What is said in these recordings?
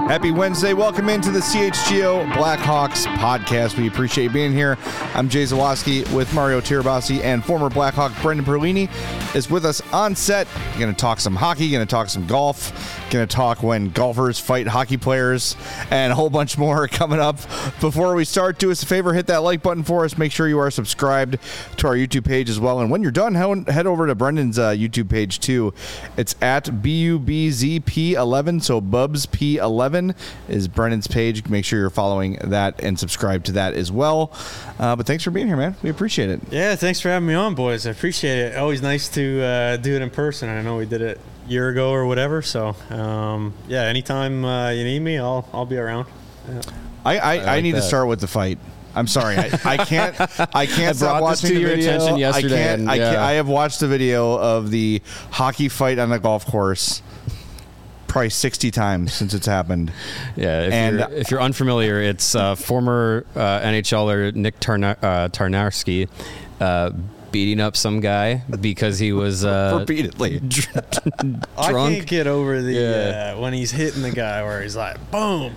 Happy Wednesday. Welcome into the CHGO Blackhawks podcast. We appreciate you being here. I'm Jay Zawoski with Mario Tirabassi, and former Blackhawk Brendan Perlini is with us on set. Going to talk some hockey, going to talk some golf, going to talk when golfers fight hockey players, and a whole bunch more coming up. Before we start, do us a favor, hit that like button for us. Make sure you are subscribed to our YouTube page as well. And when you're done, head over to Brendan's YouTube page too. It's at BUBZP11, so Bubs P11 is Brendan's page. Make sure you're following that and subscribe to that as well. But thanks for being here, man. We appreciate it. Yeah, thanks for having me on, boys. I appreciate it. Always nice to do it in person. I know we did it a year ago or whatever. So, yeah, anytime you need me, I'll be around. Yeah. I need to start with the fight. I'm sorry, I can't stop watching the your video. attention yesterday. I have watched the video of the hockey fight on the golf course probably 60 times since it's happened. Yeah, if you're unfamiliar, it's former NHLer Nick Tarnarski beating up some guy because he was repeatedly drunk. I can't get over the when he's hitting the guy where he's like, boom,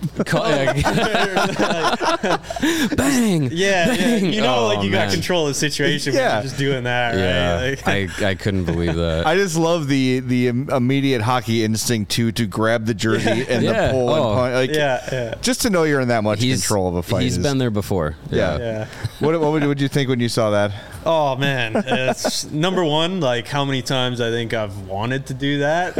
bang, bang. You know, you got control of the situation when you're just doing that. Yeah, right? I couldn't believe that. I just love the immediate hockey instinct to grab the jersey and the pull and punch. Just to know you're in that much control of a fight. He's been there before. Yeah. What would you think when you saw that? Oh man, it's number one. Like how many times I think I've wanted to do that,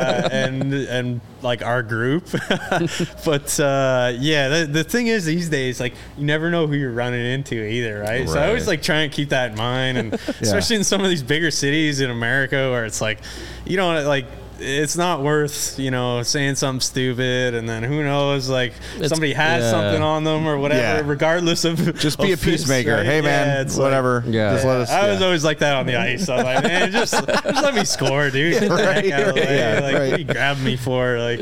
and like our group. But the thing is these days, like you never know who you're running into either, right? So I always like try and keep that in mind, and especially in some of these bigger cities in America where it's like, you don't like. It's not worth, saying something stupid, and then who knows, like somebody has something on them or whatever, regardless of just be a peacemaker. Right? Hey man, whatever. Like, just let us. I was always like that on the ice. I was like, man, just let me score, dude. Get the heck out of the way. Like, what are you grabbing me for? Like,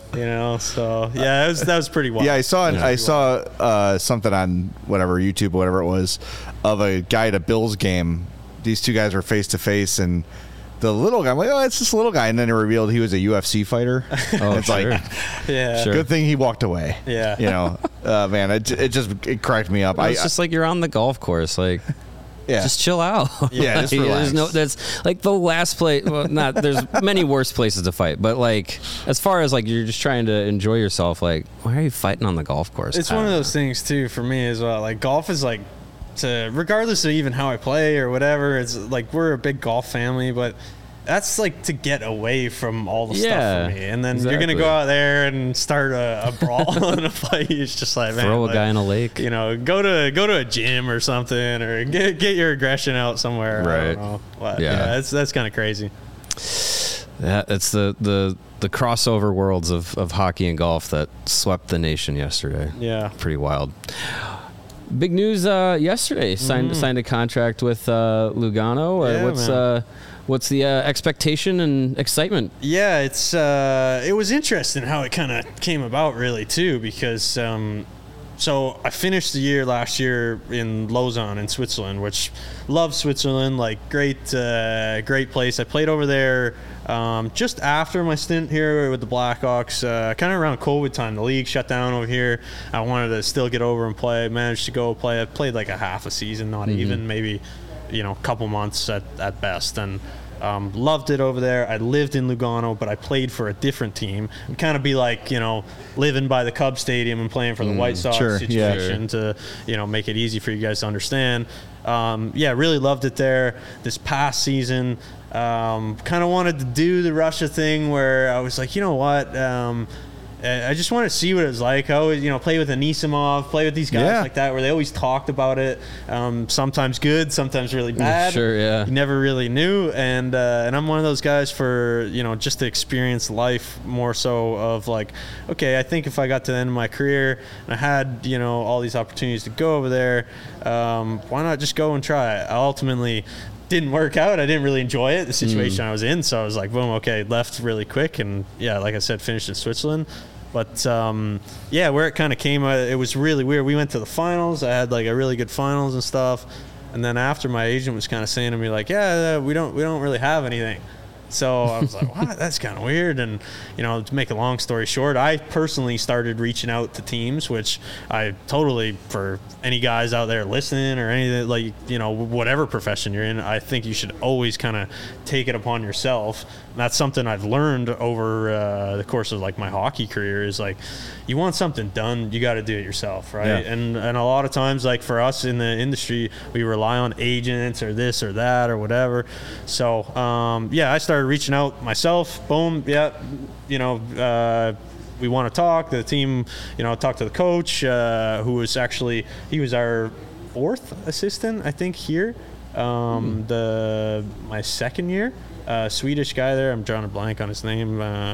So that was pretty wild. Yeah, I saw something on whatever YouTube, whatever it was, of a guy at a Bills game. These two guys were face to face, and the little guy, I'm like, oh, it's this little guy. And then it revealed he was a UFC fighter. It's good thing he walked away. Yeah. Man, it cracked me up. It's just like you're on the golf course. Like, just chill out. Yeah, just relax. That's like the last place. Well, there's many worse places to fight. But like, as far as like you're just trying to enjoy yourself, like, why are you fighting on the golf course? It's one of those things, too, for me as well. Like, golf is like, regardless of even how I play or whatever, it's like we're a big golf family, but that's like to get away from all the stuff for me. And then you're gonna go out there and start a brawl in a fight. It's just like, man, throw a guy in a lake. Go to a gym or something, or get your aggression out somewhere. Right. I don't know. That's kind of crazy. Yeah, it's the crossover worlds of hockey and golf that swept the nation yesterday. Yeah, pretty wild. Big news yesterday. Signed a contract with Lugano. What's the expectation and excitement? Yeah, it was interesting how it kind of came about, really, too, because so I finished the year last year in Lausanne in Switzerland, which love Switzerland, like great place. I played over there just after my stint here with the Blackhawks, kind of around COVID time. The league shut down over here. I wanted to still get over and play. Managed to go play. I played like a half a season, not even, maybe, a couple months at best, and loved it over there. I lived in Lugano, but I played for a different team. It'd kind of be like, living by the Cubs Stadium and playing for the White Sox situation to, make it easy for you guys to understand. Really loved it there. This past season, kind of wanted to do the Russia thing where I was like, you know what? I just wanted to see what it was like. I always, play with Anisimov, play with these guys like that, where they always talked about it. Sometimes good, sometimes really bad. Sure, yeah. You never really knew, and I'm one of those guys for just to experience life more so of like, okay, I think if I got to the end of my career and I had all these opportunities to go over there, why not just go and try it? I ultimately didn't work out. I didn't really enjoy it, the situation I was in. So I was like, boom, okay, left really quick. And like I said, finished in Switzerland. But where it kind of came, it was really weird. We went to the finals. I had like a really good finals and stuff. And then after, my agent was kind of saying to me like, we don't really have anything. So I was like, what? That's kind of weird. And, you know, to make a long story short, I personally started reaching out to teams, which I totally, for any guys out there listening or anything, like, you know, whatever profession you're in, I think you should always kind of take it upon yourself. And that's something I've learned over the course of like my hockey career is like, you want something done, you got to do it yourself, right? Yeah. And a lot of times, like for us in the industry, we rely on agents or this or that or whatever. So I started reaching out myself. Boom, yeah, you know, we want to talk. The team, you know, talked to the coach, who was actually, he was our 4th assistant, I think, here. My second year, Swedish guy there. I'm drawing a blank on his name,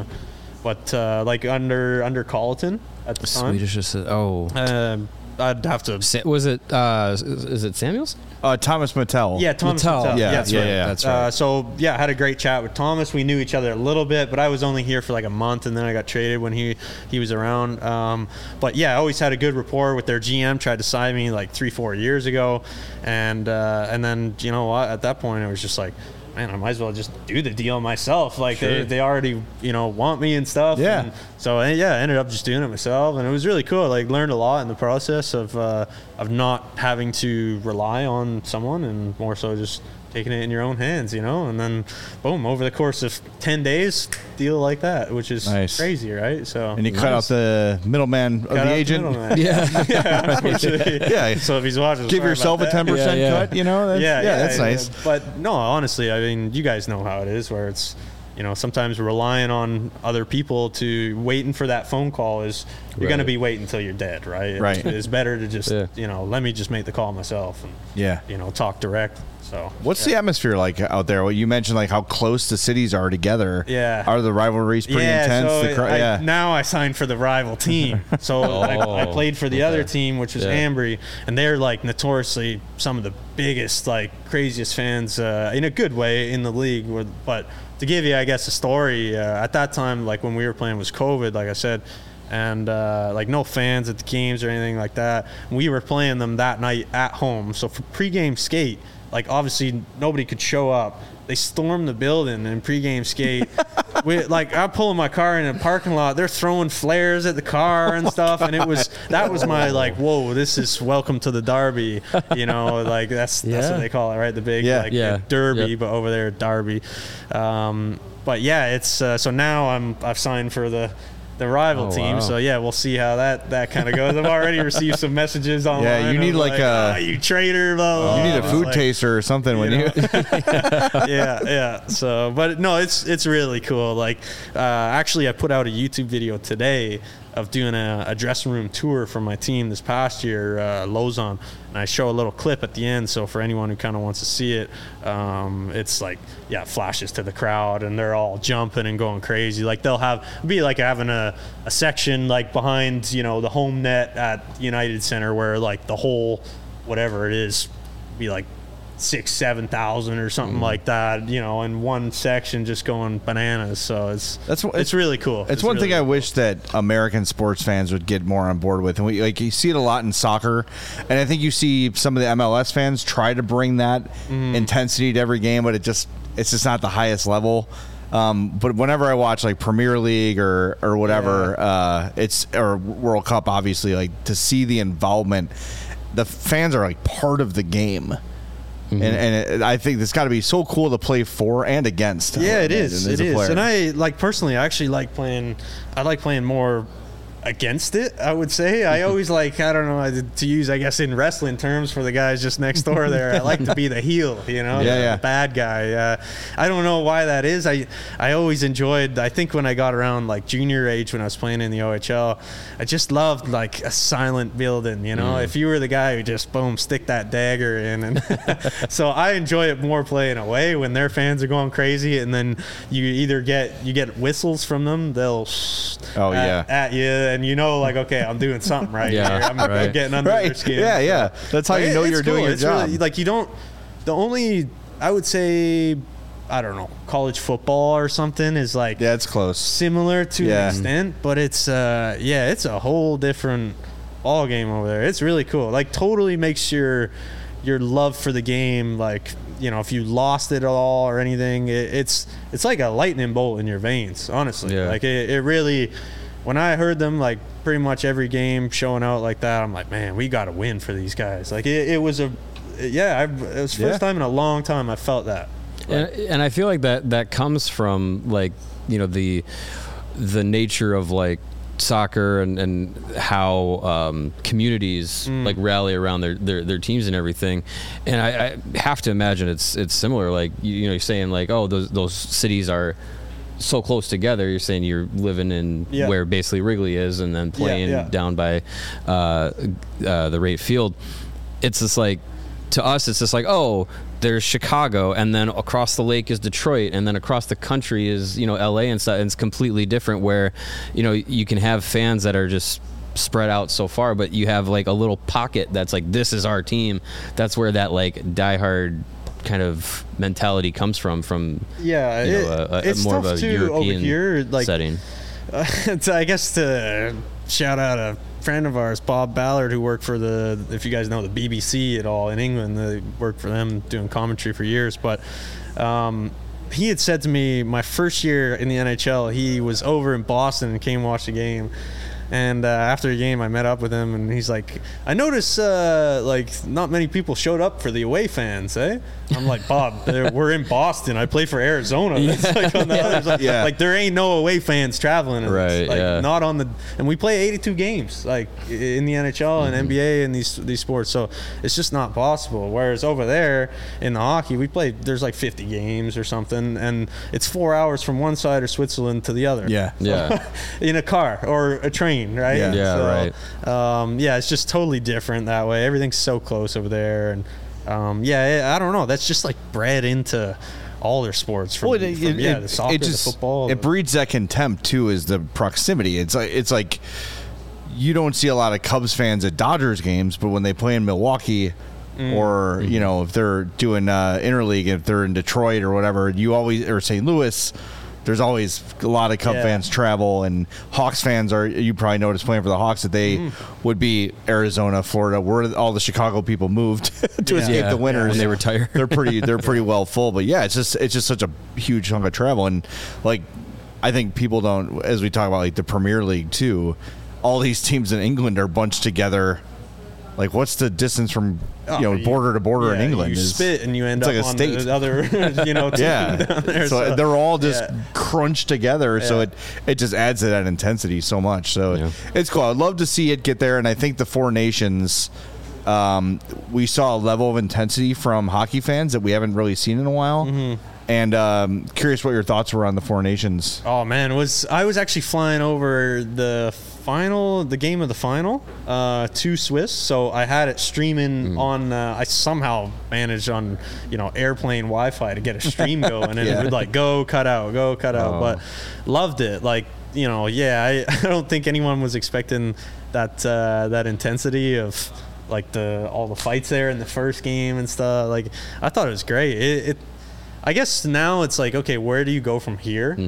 but like under Colleton at the time. Swedish assistant. I'd have to. Was it? Is it Samuels? Thomas Mattel. Yeah, Thomas Mattel. Mattel. Yeah, that's yeah, right. yeah. That's right. So yeah, I had a great chat with Thomas. We knew each other a little bit, but I was only here for like a month, and then I got traded when he was around. But yeah, I always had a good rapport with their GM. Tried to sign me like 3-4 years ago, and then you know what? At that point, it was just like, man, I might as well just do the deal myself. Like they already, you know, want me and stuff. Yeah. And so I ended up just doing it myself, and it was really cool. Like learned a lot in the process of not having to rely on someone, and more so just taking it in your own hands, you know. And then boom, over the course of 10 days, deal like that, which is Nice. crazy, right? So And you cut out the middleman of the agent. Yeah. Yeah. So if he's watching, Give sorry yourself a about that. 10% Yeah. cut, you know? That's nice. But no, honestly, I mean, you guys know how it is, where it's, you know, sometimes relying on other people to waiting for that phone call is you're Right. going to be waiting until you're dead, right? Right. It's better to just, Yeah. you know, let me just make the call myself and, Yeah. you know, talk direct. So What's the atmosphere like out there? Well, you mentioned like how close the cities are together. Yeah. Are the rivalries pretty intense? So now I signed for the rival team. So I played for the other team, which was Ambry, and they're like notoriously some of the biggest, like craziest fans in a good way in the league. But to give you, I guess, a story, at that time, like when we were playing was COVID, like I said, and like no fans at the games or anything like that. We were playing them that night at home. So for pregame skate, like obviously nobody could show up. They stormed the building and pregame skate. I'm pulling my car in a parking lot. They're throwing flares at the car and stuff, and that was my like, whoa, this is welcome to the Derby, you know, like that's what they call it, right? The big Derby, but over there Derby. But yeah, it's so now I've signed for the rival team. Wow. So yeah, we'll see how that kind of goes. I've already received some messages online. Yeah, you need like a you traitor, blah, blah, You need a blah. food Like, taster or something when you. yeah. So, but no, it's really cool. Like, actually, I put out a YouTube video today of doing a dressing room tour from my team this past year, Lausanne, and I show a little clip at the end. So for anyone who kind of wants to see it, it's like, flashes to the crowd, and they're all jumping and going crazy. Like they'll be like having a section like behind, you know, the home net at United Center where like the whole whatever it is be like 6,000-7,000 or something like that, you know, in one section just going bananas. So it's really cool. It's one really thing I cool. wish that American sports fans would get more on board with, and you see it a lot in soccer, and I think you see some of the MLS fans try to bring that intensity to every game, but it's just not the highest level. But whenever I watch like Premier League or whatever, or World Cup, obviously, like to see the involvement, the fans are like part of the game. And I think it's got to be so cool to play for and against. Yeah, it is. as It a is. player. And I like personally, I actually like playing. I like playing more against it, I would say. I always like, I don't know, to use, I guess, in wrestling terms for the guys just next door there, I like to be the heel, you know, the bad guy. I don't know why that is. I always enjoyed, I think when I got around like junior age when I was playing in the OHL, I just loved like a silent building, you know, if you were the guy who just, boom, stick that dagger in. And so I enjoy it more playing away when their fans are going crazy, and then you either get whistles from them, they'll at you, and you know, like, okay, I'm doing something right here. I'm getting under their skin. Yeah. That's how you know you're doing your job. Really, like, you don't. The only, I would say, I don't know, college football or something is like, it's close, similar to an extent, but it's it's a whole different ball game over there. It's really cool. Like, totally makes your love for the game like if you lost it at all or anything, it's like a lightning bolt in your veins, honestly. Yeah. Like it really, when I heard them like pretty much every game showing out like that, I'm like, man, we got to win for these guys. Like it was it was the first time in a long time I felt that. And I feel like that comes from like, the nature of like soccer and how communities like rally around their teams and everything. And I have to imagine it's similar. Like you're saying like, oh, those cities are so close together. You're saying you're living in where basically Wrigley is, and then playing down by the Rate Field. It's just like, to us, it's just like, oh, there's Chicago, and then across the lake is Detroit, and then across the country is LA and stuff. And it's completely different where you can have fans that are just spread out so far, but you have like a little pocket that's like, this is our team. That's where that like diehard kind of mentality comes from it's more tough of a too European over here, like, setting. I guess to shout out a friend of ours, Bob Ballard, who worked for if you guys know the BBC at all in England, they worked for them doing commentary for years. But he had said to me, my first year in the NHL, he was over in Boston and came watch the game. And after the game, I met up with him, and he's like, I noticed like not many people showed up for the away fans, eh? I'm like, Bob, we're in Boston. I play for Arizona. It's like on the other side. Like there ain't no away fans traveling. And right. It's like not on the. And we play 82 games like in the NHL and NBA and these sports, so it's just not possible. Whereas over there in the hockey, we play. There's like 50 games or something, and it's 4 hours from one side of Switzerland to the other. In a car or a train, right? Right. It's just totally different that way. Everything's so close over there, and I don't know. That's just like bred into all their sports from the soccer, the football. It breeds that contempt too, is the proximity. It's like you don't see a lot of Cubs fans at Dodgers games, but when they play in Milwaukee or if they're doing interleague, if they're in Detroit or whatever, or St. Louis, there's always a lot of Cub fans travel, and Hawks fans you probably noticed playing for the Hawks that they would be Arizona, Florida, where all the Chicago people moved to escape the winters when they retire. they're pretty well full. But it's just such a huge chunk of travel, and like I think people don't, as we talk about like the Premier League too, all these teams in England are bunched together. Like, what's the distance from border to border in England? You spit and you end up like a on state. the other down there. So they're all just crunched together. So it just adds to that intensity so much. So it's cool. I'd love to see it get there. And I think the Four Nations, we saw a level of intensity from hockey fans that we haven't really seen in a while. And curious what your thoughts were on the Four Nations. Oh man, I was actually flying over the game of the final to Swiss, so I had it streaming on. I somehow managed on airplane Wi-Fi to get a stream going, and it would like go cut out, but loved it. Like I don't think anyone was expecting that intensity of like all the fights there in the first game and stuff. Like I thought it was great. I guess now it's like, okay, where do you go from here?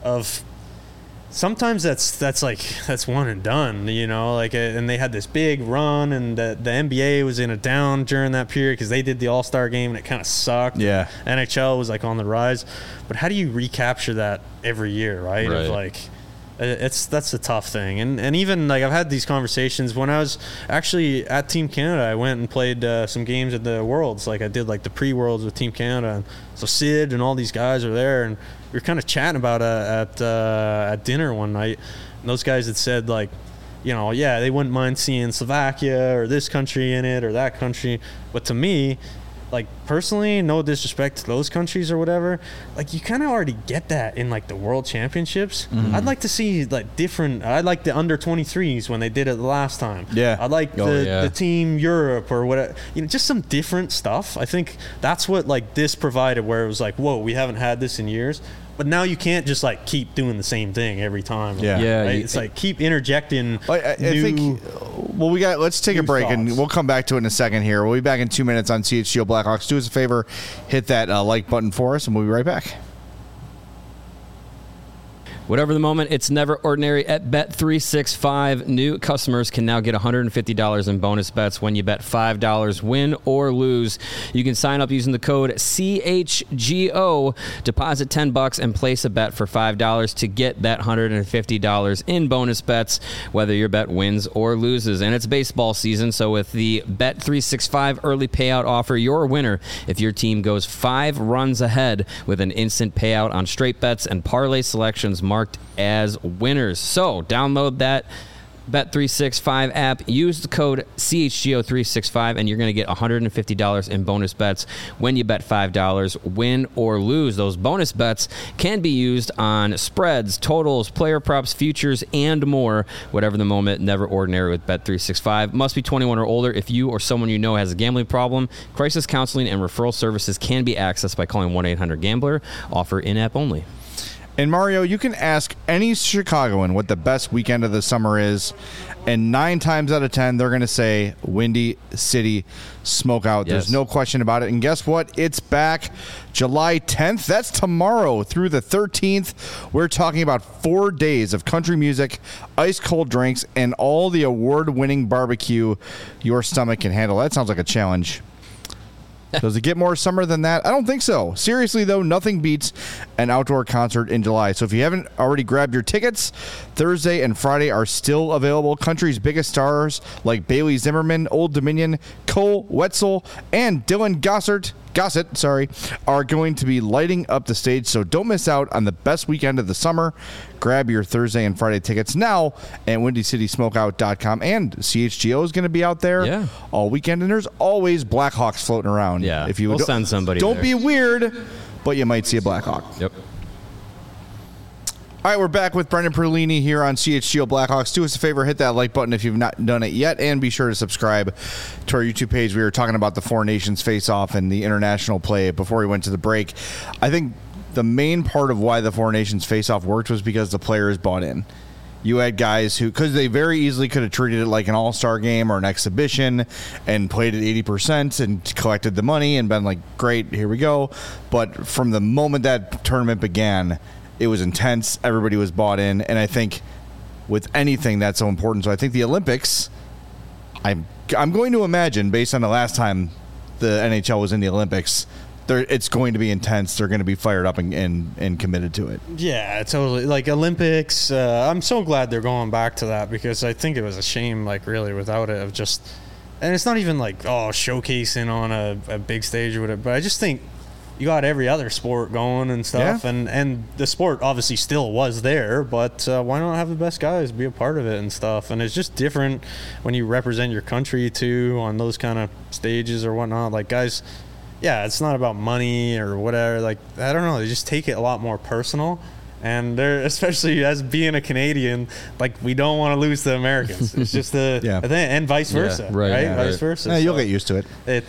Sometimes that's one and done, and they had this big run, and the NBA was in a down during that period because they did the All-Star game and it kind of sucked. NHL was like on the rise, but how do you recapture that every year, right? Of like, that's the tough thing, and even like I've had these conversations when I was actually at Team Canada. I went and played some games at the Worlds. Like I did like the pre-Worlds with Team Canada, and so Sid and all these guys are there, and we were kind of chatting about it at dinner one night. And those guys had said like, they wouldn't mind seeing Slovakia or this country in it or that country, but to me, like personally, no disrespect to those countries or whatever, like you kind of already get that in like the World Championships. I'd like to see like different. I like the under 23s when they did it the last time. I like the Team Europe or whatever. Just some different stuff. I think that's what like this provided, where it was like, whoa, we haven't had this in years. But now you can't just like keep doing the same thing every time. Right? It's like keep interjecting. I think. Well, let's take a break and we'll come back to it in a second. Here, we'll be back in 2 minutes on CHGO Blackhawks. Do us a favor, hit that like button for us, and we'll be right back. Whatever the moment, it's never ordinary at Bet365. New customers can now get $150 in bonus bets when you bet $5, win or lose. You can sign up using the code CHGO, deposit $10 and place a bet for $5 to get that $150 in bonus bets, whether your bet wins or loses. And it's baseball season, so with the Bet365 early payout offer, you're a winner if your team goes 5 runs ahead with an instant payout on straight bets and parlay selections marked as winners. So download that Bet365 app, use the code CHGO365, and you're going to get $150 in bonus bets when you bet $5, win or lose. Those bonus bets can be used on spreads, totals, player props, futures, and more. Whatever the moment, never ordinary with Bet365. Must be 21 or older. If you or someone you know has a gambling problem, crisis counseling and referral services can be accessed by calling 1-800-GAMBLER. Offer in-app only. And Mario, you can ask any Chicagoan what the best weekend of the summer is, and 9 times out of 10, they're going to say Windy City Smokeout. Yes. There's no question about it. And guess what? It's back July 10th. That's tomorrow through the 13th. We're talking about 4 days of country music, ice-cold drinks, and all the award-winning barbecue your stomach can handle. That sounds like a challenge. Does it get more summer than that? I don't think so. Seriously, though, nothing beats an outdoor concert in July. So if you haven't already grabbed your tickets, Thursday and Friday are still available. Country's biggest stars like Bailey Zimmerman, Old Dominion, Cole Wetzel, and Dylan Gossett, are going to be lighting up the stage. So don't miss out on the best weekend of the summer. Grab your Thursday and Friday tickets now at WindyCitySmokeout.com. And CHGO is going to be out there all weekend. And there's always Blackhawks floating around. Yeah, if you we'll send somebody Don't there. be weird, but you might see a Blackhawk. Yep. All right, we're back with Brendan Perlini here on CHGO Blackhawks. Do us a favor, hit that like button if you've not done it yet, and be sure to subscribe to our YouTube page. We were talking about the Four Nations face-off and the international play before we went to the break. I think the main part of why the Four Nations face-off worked was because the players bought in. You had guys who, because they very easily could have treated it like an all-star game or an exhibition and played at 80% and collected the money and been like, great, here we go. But from the moment that tournament began, it was intense. Everybody was bought in. And I think with anything that's so important. So I think the Olympics, I'm going to imagine, based on the last time the NHL was in the Olympics, it's going to be intense. They're going to be fired up and committed to it. Yeah, totally. Like Olympics, I'm so glad they're going back to that because I think it was a shame, like really without it, of just, and it's not even like, showcasing on a big stage or whatever, but I just think you got every other sport going and stuff, and the sport obviously still was there, but why not have the best guys be a part of it and stuff? And it's just different when you represent your country too on those kind of stages or whatnot. Like guys, it's not about money or whatever. Like I don't know, they just take it a lot more personal. And they're, especially as being a Canadian, like we don't want to lose the Americans. It's just the thing, and vice versa, right? Vice versa. Yeah, you'll get used to it.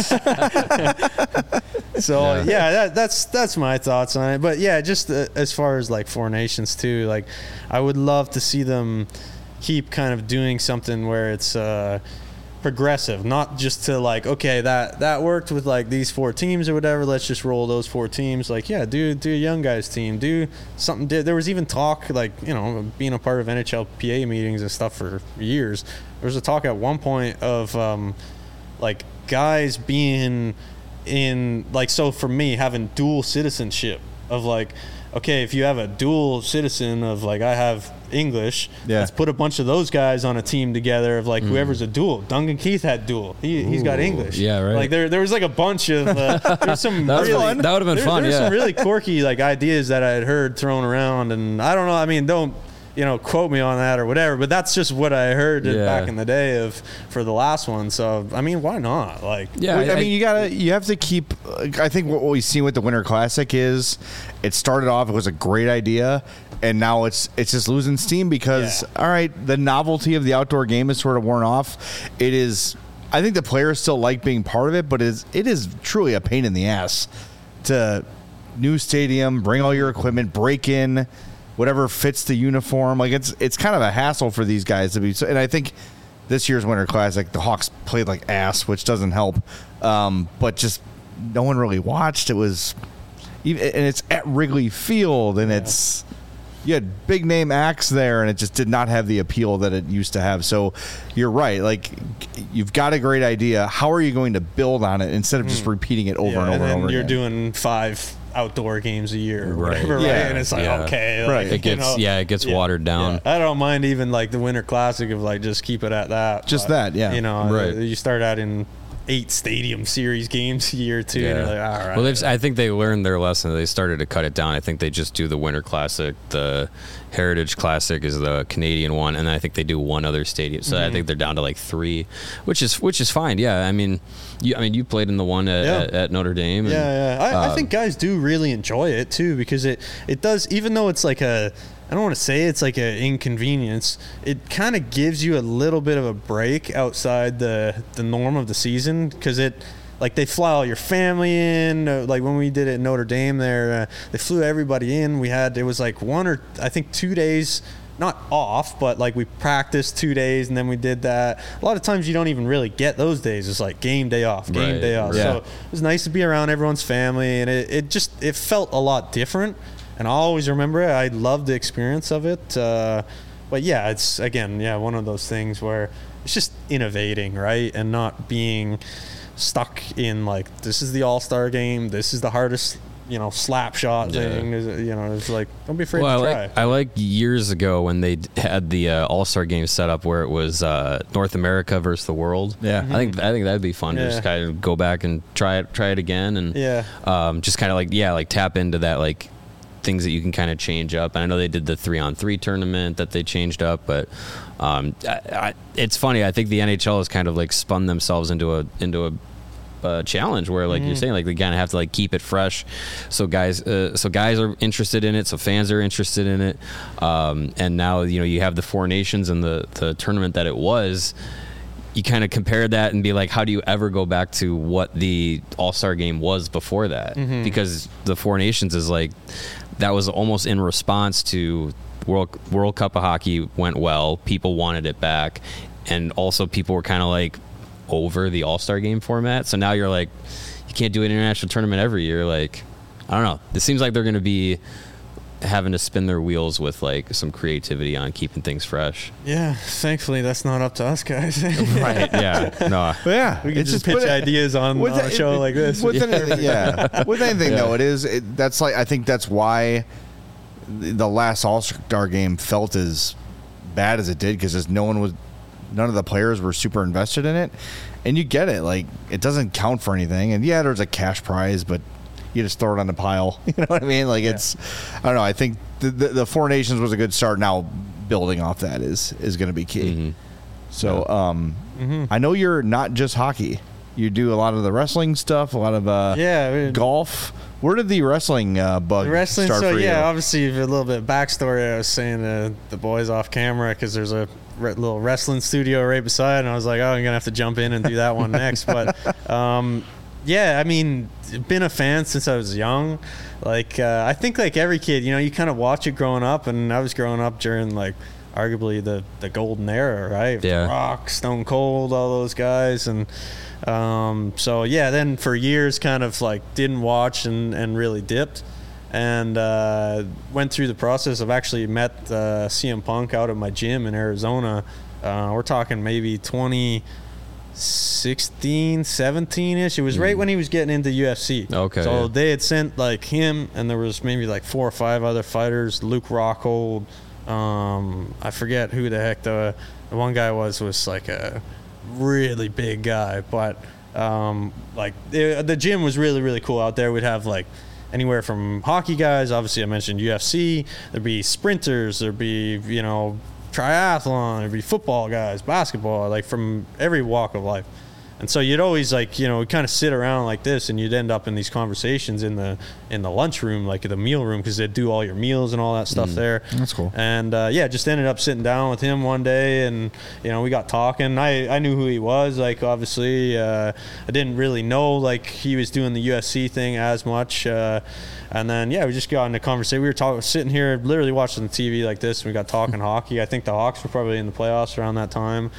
So that's my thoughts on it. But just as far as like Four Nations too, like I would love to see them keep kind of doing something where it's progressive, not just to like, okay, that worked with like these 4 teams or whatever, let's just roll those 4 teams. Like do a young guys team, do something. There was even talk, like, you know, being a part of NHLPA meetings and stuff for years, there was a talk at one point of like guys being in, like, so for me having dual citizenship of like, okay, if you have a dual citizen of like, I have English, let's put a bunch of those guys on a team together of like whoever's a dual. Duncan Keith had dual. He's got English. Yeah, right. Like there was like a bunch of there's some that would have been fun. There's some really quirky like ideas that I had heard thrown around, and I don't know. I mean, don't quote me on that or whatever, but that's just what I heard back in the day for the last one. So I mean, why not? Like, I mean, you have to keep. I think what we've seen with the Winter Classic is it started off, it was a great idea, and now it's just losing steam because all right, the novelty of the outdoor game is sort of worn off. It is. I think the players still like being part of it, but it is truly a pain in the ass to new stadium, bring all your equipment, break in whatever fits the uniform. Like it's kind of a hassle for these guys to be. And I think this year's Winter Classic, the Hawks played like ass, which doesn't help. But just no one really watched. It was, and it's at Wrigley Field, and it's you had big name acts there, and it just did not have the appeal that it used to have. So you're right. Like, you've got a great idea. How are you going to build on it instead of just repeating it over and over and over you're again? doing 5 outdoor games a year or Right. whatever, right? Yeah. And it's like, Yeah. okay. Right. Like, It gets it gets watered down. I don't mind even like the Winter Classic of like just keep it at that. Just but, that, yeah. You know, Right. you start adding 8 stadium series games a year too, and you're like, all right. Well, I think they learned their lesson. They started to cut it down. I think they just do the Winter Classic. The Heritage Classic is the Canadian one, and then I think they do one other stadium. So I think they're down to like 3, which is fine. Yeah, I mean, you played in the one at Notre Dame. And, I think guys do really enjoy it too, because it does, even though it's like I don't want to say it's like an inconvenience. It kind of gives you a little bit of a break outside the norm of the season, because like they fly all your family in. Like when we did it at Notre Dame there, they flew everybody in. It was like 1 or I think 2 days, not off, but like we practiced 2 days and then we did that. A lot of times you don't even really get those days. It's like game day off. Right. So it was nice to be around everyone's family, and it felt a lot different. And I'll always remember it. I loved the experience of it. But yeah, it's again, one of those things where it's just innovating, right? And not being stuck in like, this is the All-Star game, this is the hardest, slap shot thing. It's like, don't be afraid to try. I like years ago when they had the All-Star game set up where it was North America versus the world. Yeah. I think that'd be fun to just kind of go back and try it again, and just kind of like tap into that, like, things that you can kind of change up. And I know they did the 3-on-3 tournament that they changed up, but it's funny. I think the NHL has kind of like spun themselves into a challenge where, like you're saying, like they kind of have to like keep it fresh. So guys are interested in it. So fans are interested in it. And now, you have the 4 Nations and the tournament that it was. You kind of compare that and be like, how do you ever go back to what the All-Star game was before that? Because the 4 Nations is like, that was almost in response to World Cup of Hockey went well. People wanted it back. And also people were kind of like over the All-Star game format. So now you're like, you can't do an international tournament every year. Like, I don't know. It seems like they're going to be having to spin their wheels with like some creativity on keeping things fresh. Yeah, thankfully that's not up to us guys. Right. Yeah. No. But yeah, We can just pitch ideas on a show like this. With anything, with anything though, that's like, I think that's why the last All-Star game felt as bad as it did, because none of the players were super invested in it, and you get it. Like, it doesn't count for anything, and there's a cash prize, but you just throw it on the pile. You know what I mean? Like, it's, I don't know. I think the 4 Nations was a good start. Now building off that is going to be key. So, I know you're not just hockey. You do a lot of the wrestling stuff, a lot of golf. Where did the wrestling bug start for you? Obviously a little bit of backstory. I was saying to the boys off camera, because there's a little wrestling studio right beside, and I was like, oh, I'm gonna have to jump in and do that one next. But I mean, been a fan since I was young. Like, I think like every kid, you kind of watch it growing up, and I was growing up during like arguably the golden era, right? Yeah. Rock, Stone Cold, all those guys. And then for years kind of like didn't watch and really dipped, and went through the process of actually met CM Punk out at my gym in Arizona. We're talking maybe 2016, 17-ish. It was right when he was getting into UFC. Okay. So they had sent like him, and there was maybe like 4 or 5 other fighters. Luke Rockhold. I forget who the heck the one guy was like a really big guy, but like the gym was really, really cool out there. We'd have like anywhere from hockey guys, obviously I mentioned UFC, there'd be sprinters, there'd be triathlon, there'd be football guys, basketball, like from every walk of life. And so you'd always like, kind of sit around like this, and you'd end up in these conversations in the lunchroom, like the meal room, because they'd do all your meals and all that stuff there. That's cool. And just ended up sitting down with him one day, and we got talking. I knew who he was. Like, obviously, I didn't really know like he was doing the UFC thing as much. And then we just got into conversation. We were sitting here, literally watching the TV like this, and we got talking hockey. I think the Hawks were probably in the playoffs around that time.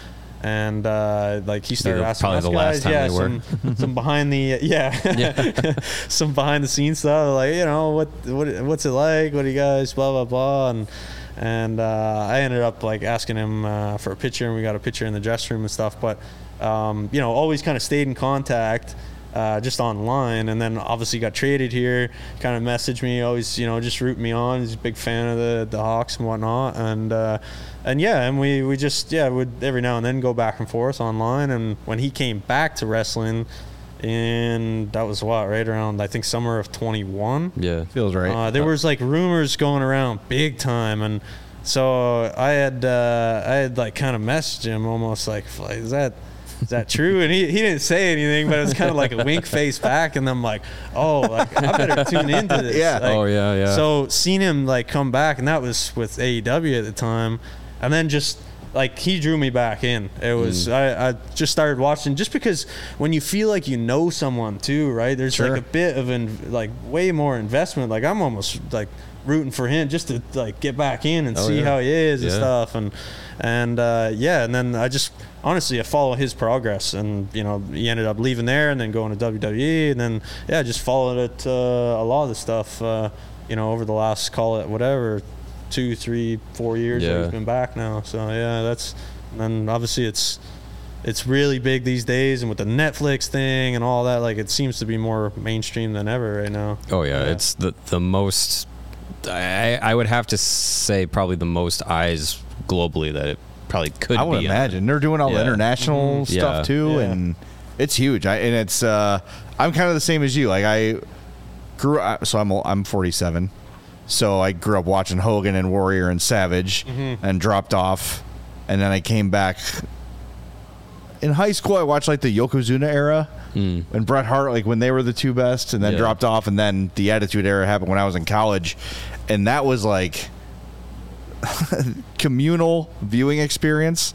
And like he started asking probably us the guys, last time they were. some behind the some behind the scenes stuff, like, you know, what's it like? What do you guys blah blah blah, and I ended up like asking him for a picture, and we got a picture in the dressing room and stuff. But you know, always kind of stayed in contact. Just online, and then obviously got traded here, kind of messaged me, always, you know, just rooting me on. He's a big fan of the Hawks and whatnot, and we just would every now and then go back and forth online. And when he came back to wrestling, and that was right around, I think, summer of 21. Yeah, feels right. There was like rumors going around big time, and so I had like kind of messaged him almost like is that true? And he didn't say anything, but it was kind of like a wink face back. And I'm like, oh, like, I better tune into this. Yeah. Like, yeah. So seeing him like come back, and that was with AEW at the time. And then just like he drew me back in. It was I just started watching, just because when you feel like you know someone too, right? There's like a bit of like way more investment. Like I'm almost like rooting for him just to like get back in and see how he is and stuff. And then I just honestly I follow his progress, and you know, he ended up leaving there and then going to WWE, and then just followed it a lot of the stuff you know, over the last, call it whatever, 2, 3, 4 years that he's been back now. So that's, and then obviously it's really big these days, and with the Netflix thing and all that, like it seems to be more mainstream than ever right now. It's the most, I would have to say probably the most eyes globally that it probably could be. I would imagine they're doing all the international stuff too, Yeah. and it's huge. And it's I'm kind of the same as you. Like I grew up, so I'm 47, so I grew up watching Hogan and Warrior and Savage, and dropped off, and then I came back in high school. I watched like the Yokozuna era. And Bret Hart, like when they were the two best, and then dropped off, and then the Attitude Era happened when I was in college, and that was like communal viewing experience.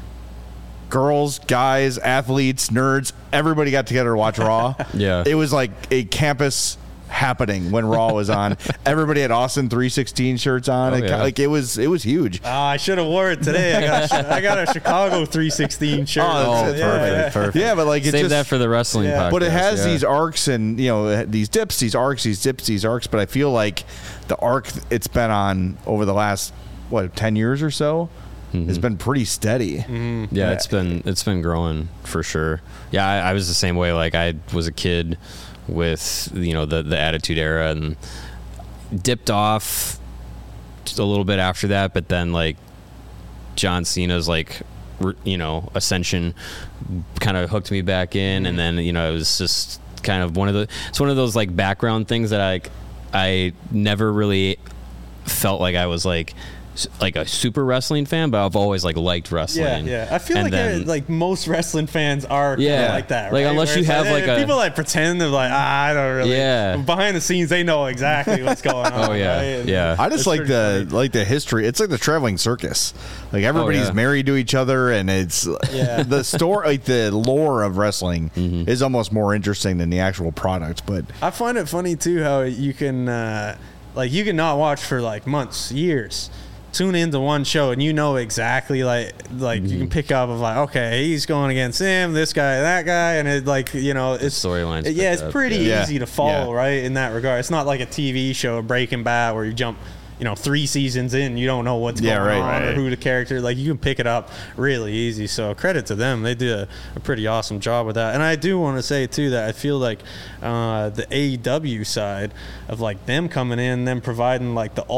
Girls, guys, athletes, nerds, everybody got together to watch Raw. It was like a campus happening when Raw was on. Everybody had Austin 316 shirts on. Like it was huge. I should have wore it today. I got a Chicago 316 shirt. Perfect. Yeah, but like save that for the wrestling podcast. But it has these arcs, and you know, these dips, these arcs, these dips, these arcs. But I feel like the arc it's been on over the last 10 years or so has been pretty steady. Yeah, it's been growing for sure. Yeah, I was the same way. Like I was a kid with, you know, the Attitude Era, and dipped off just a little bit after that, but then like John Cena's like, you know, ascension kind of hooked me back in, and then, you know, it was just kind of one of those like background things that I never really felt like I was like a super wrestling fan, but I've always like liked wrestling. I feel like most wrestling fans are kind of like that, like right? unless you have like people like pretend they're like, I don't really. Behind the scenes, they know exactly what's going on. Right? I just like the history. It's like the traveling circus. Like everybody's married to each other, and it's the story, like the lore of wrestling is almost more interesting than the actual product. But I find it funny too how you can you can not watch for like months, years, tune into one show, and you know exactly like you can pick up of like, okay, he's going against him, this guy, that guy, and it, like, you know, it's storylines. It's pretty easy to follow, right? In that regard, it's not like a TV show, Breaking Bad, where you jump, you know, 3 seasons in, you don't know what's going on or who the character. Like, you can pick it up really easy. So credit to them, they do a pretty awesome job with that. And I do want to say too that I feel like the AEW side of like them coming in, them providing like the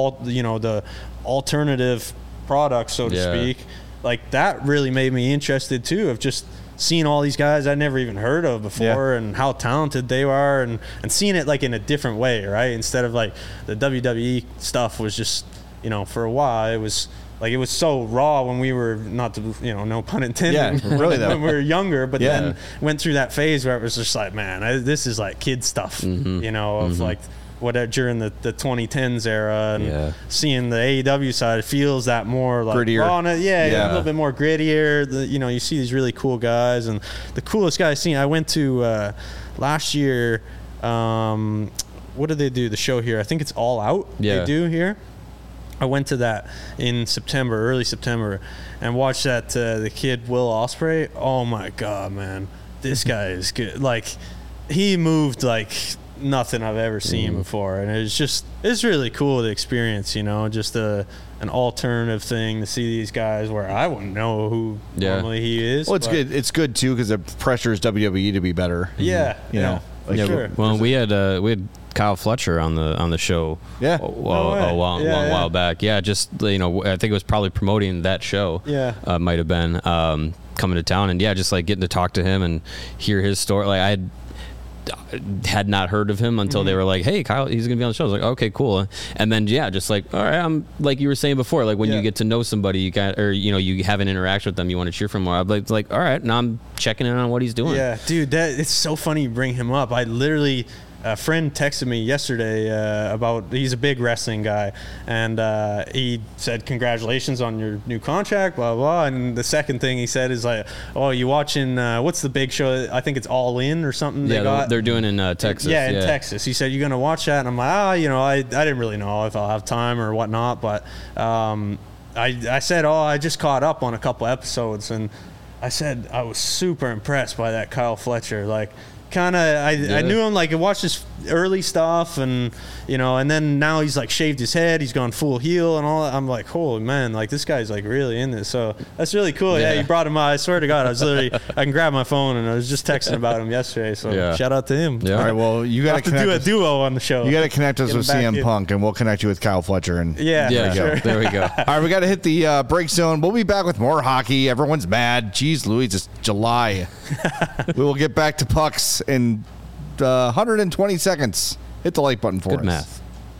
alternative product, so to speak, like that really made me interested too, of just seeing all these guys I never even heard of before and how talented they are, and seeing it like in a different way, right? Instead of like the WWE stuff was just, you know, for a while it was so raw when we were, not to, you know, no pun intended, really though, when we were younger, but then went through that phase where it was just like, man, this is like kid stuff, you know, of like whatever during the 2010s era, and seeing the AEW side, it feels that more like grittier, raw, a little bit more grittier. You know, you see these really cool guys, and the coolest guy I've seen, I went to last year. What did they do? The show here, I think it's All Out. They do here. I went to that in September, early September, and watched that the kid Will Ospreay. Oh my God, man, this guy is good. Like, he moved like nothing I've ever seen before, and it's really cool to experience. You know, just an alternative thing to see these guys where I wouldn't know who normally he is. Well, it's good. It's good too because it pressures WWE to be better. Yeah, you know. Like, sure. Well, we had Kyle Fletcher on the show. Yeah. A while back. Yeah, just I think it was probably promoting that show. Yeah. Might have been coming to town, and just like getting to talk to him and hear his story. Like I had not heard of him until they were like, "Hey, Kyle, he's gonna be on the show." I was like, "Okay, cool." And then just like, all right, I'm like you were saying before, like when you get to know somebody, you have an interaction with them, you want to cheer for more. I'm like, all right, now I'm checking in on what he's doing. Yeah, dude, it's so funny you bring him up. I literally. A friend texted me yesterday he's a big wrestling guy, and he said, congratulations on your new contract, blah, blah. And the second thing he said is like, oh, you watching, what's the big show? I think it's All In or something. They're doing in Texas. Yeah, in Texas. He said, you going to watch that? And I'm like, I didn't really know if I'll have time or whatnot. But I said, I just caught up on a couple episodes. And I said, I was super impressed by that Kyle Fletcher. Like, I knew him, like I watched his early stuff, and and then now he's like shaved his head, he's gone full heel and all that. I'm like, holy man, like this guy's like really in this. So that's really cool. Yeah, you brought him out. I swear to God, I can grab my phone and I was just texting about him yesterday. So shout out to him. Yeah. All right, well, you got to do a duo on the show. You got to connect us with CM Punk, and we'll connect you with Kyle Fletcher. And sure. There we go. All right, we got to hit the break zone. We'll be back with more hockey. Everyone's mad. Jeez Louise, it's July. We will get back to pucks in 120 seconds. Hit the like button for us. Good math.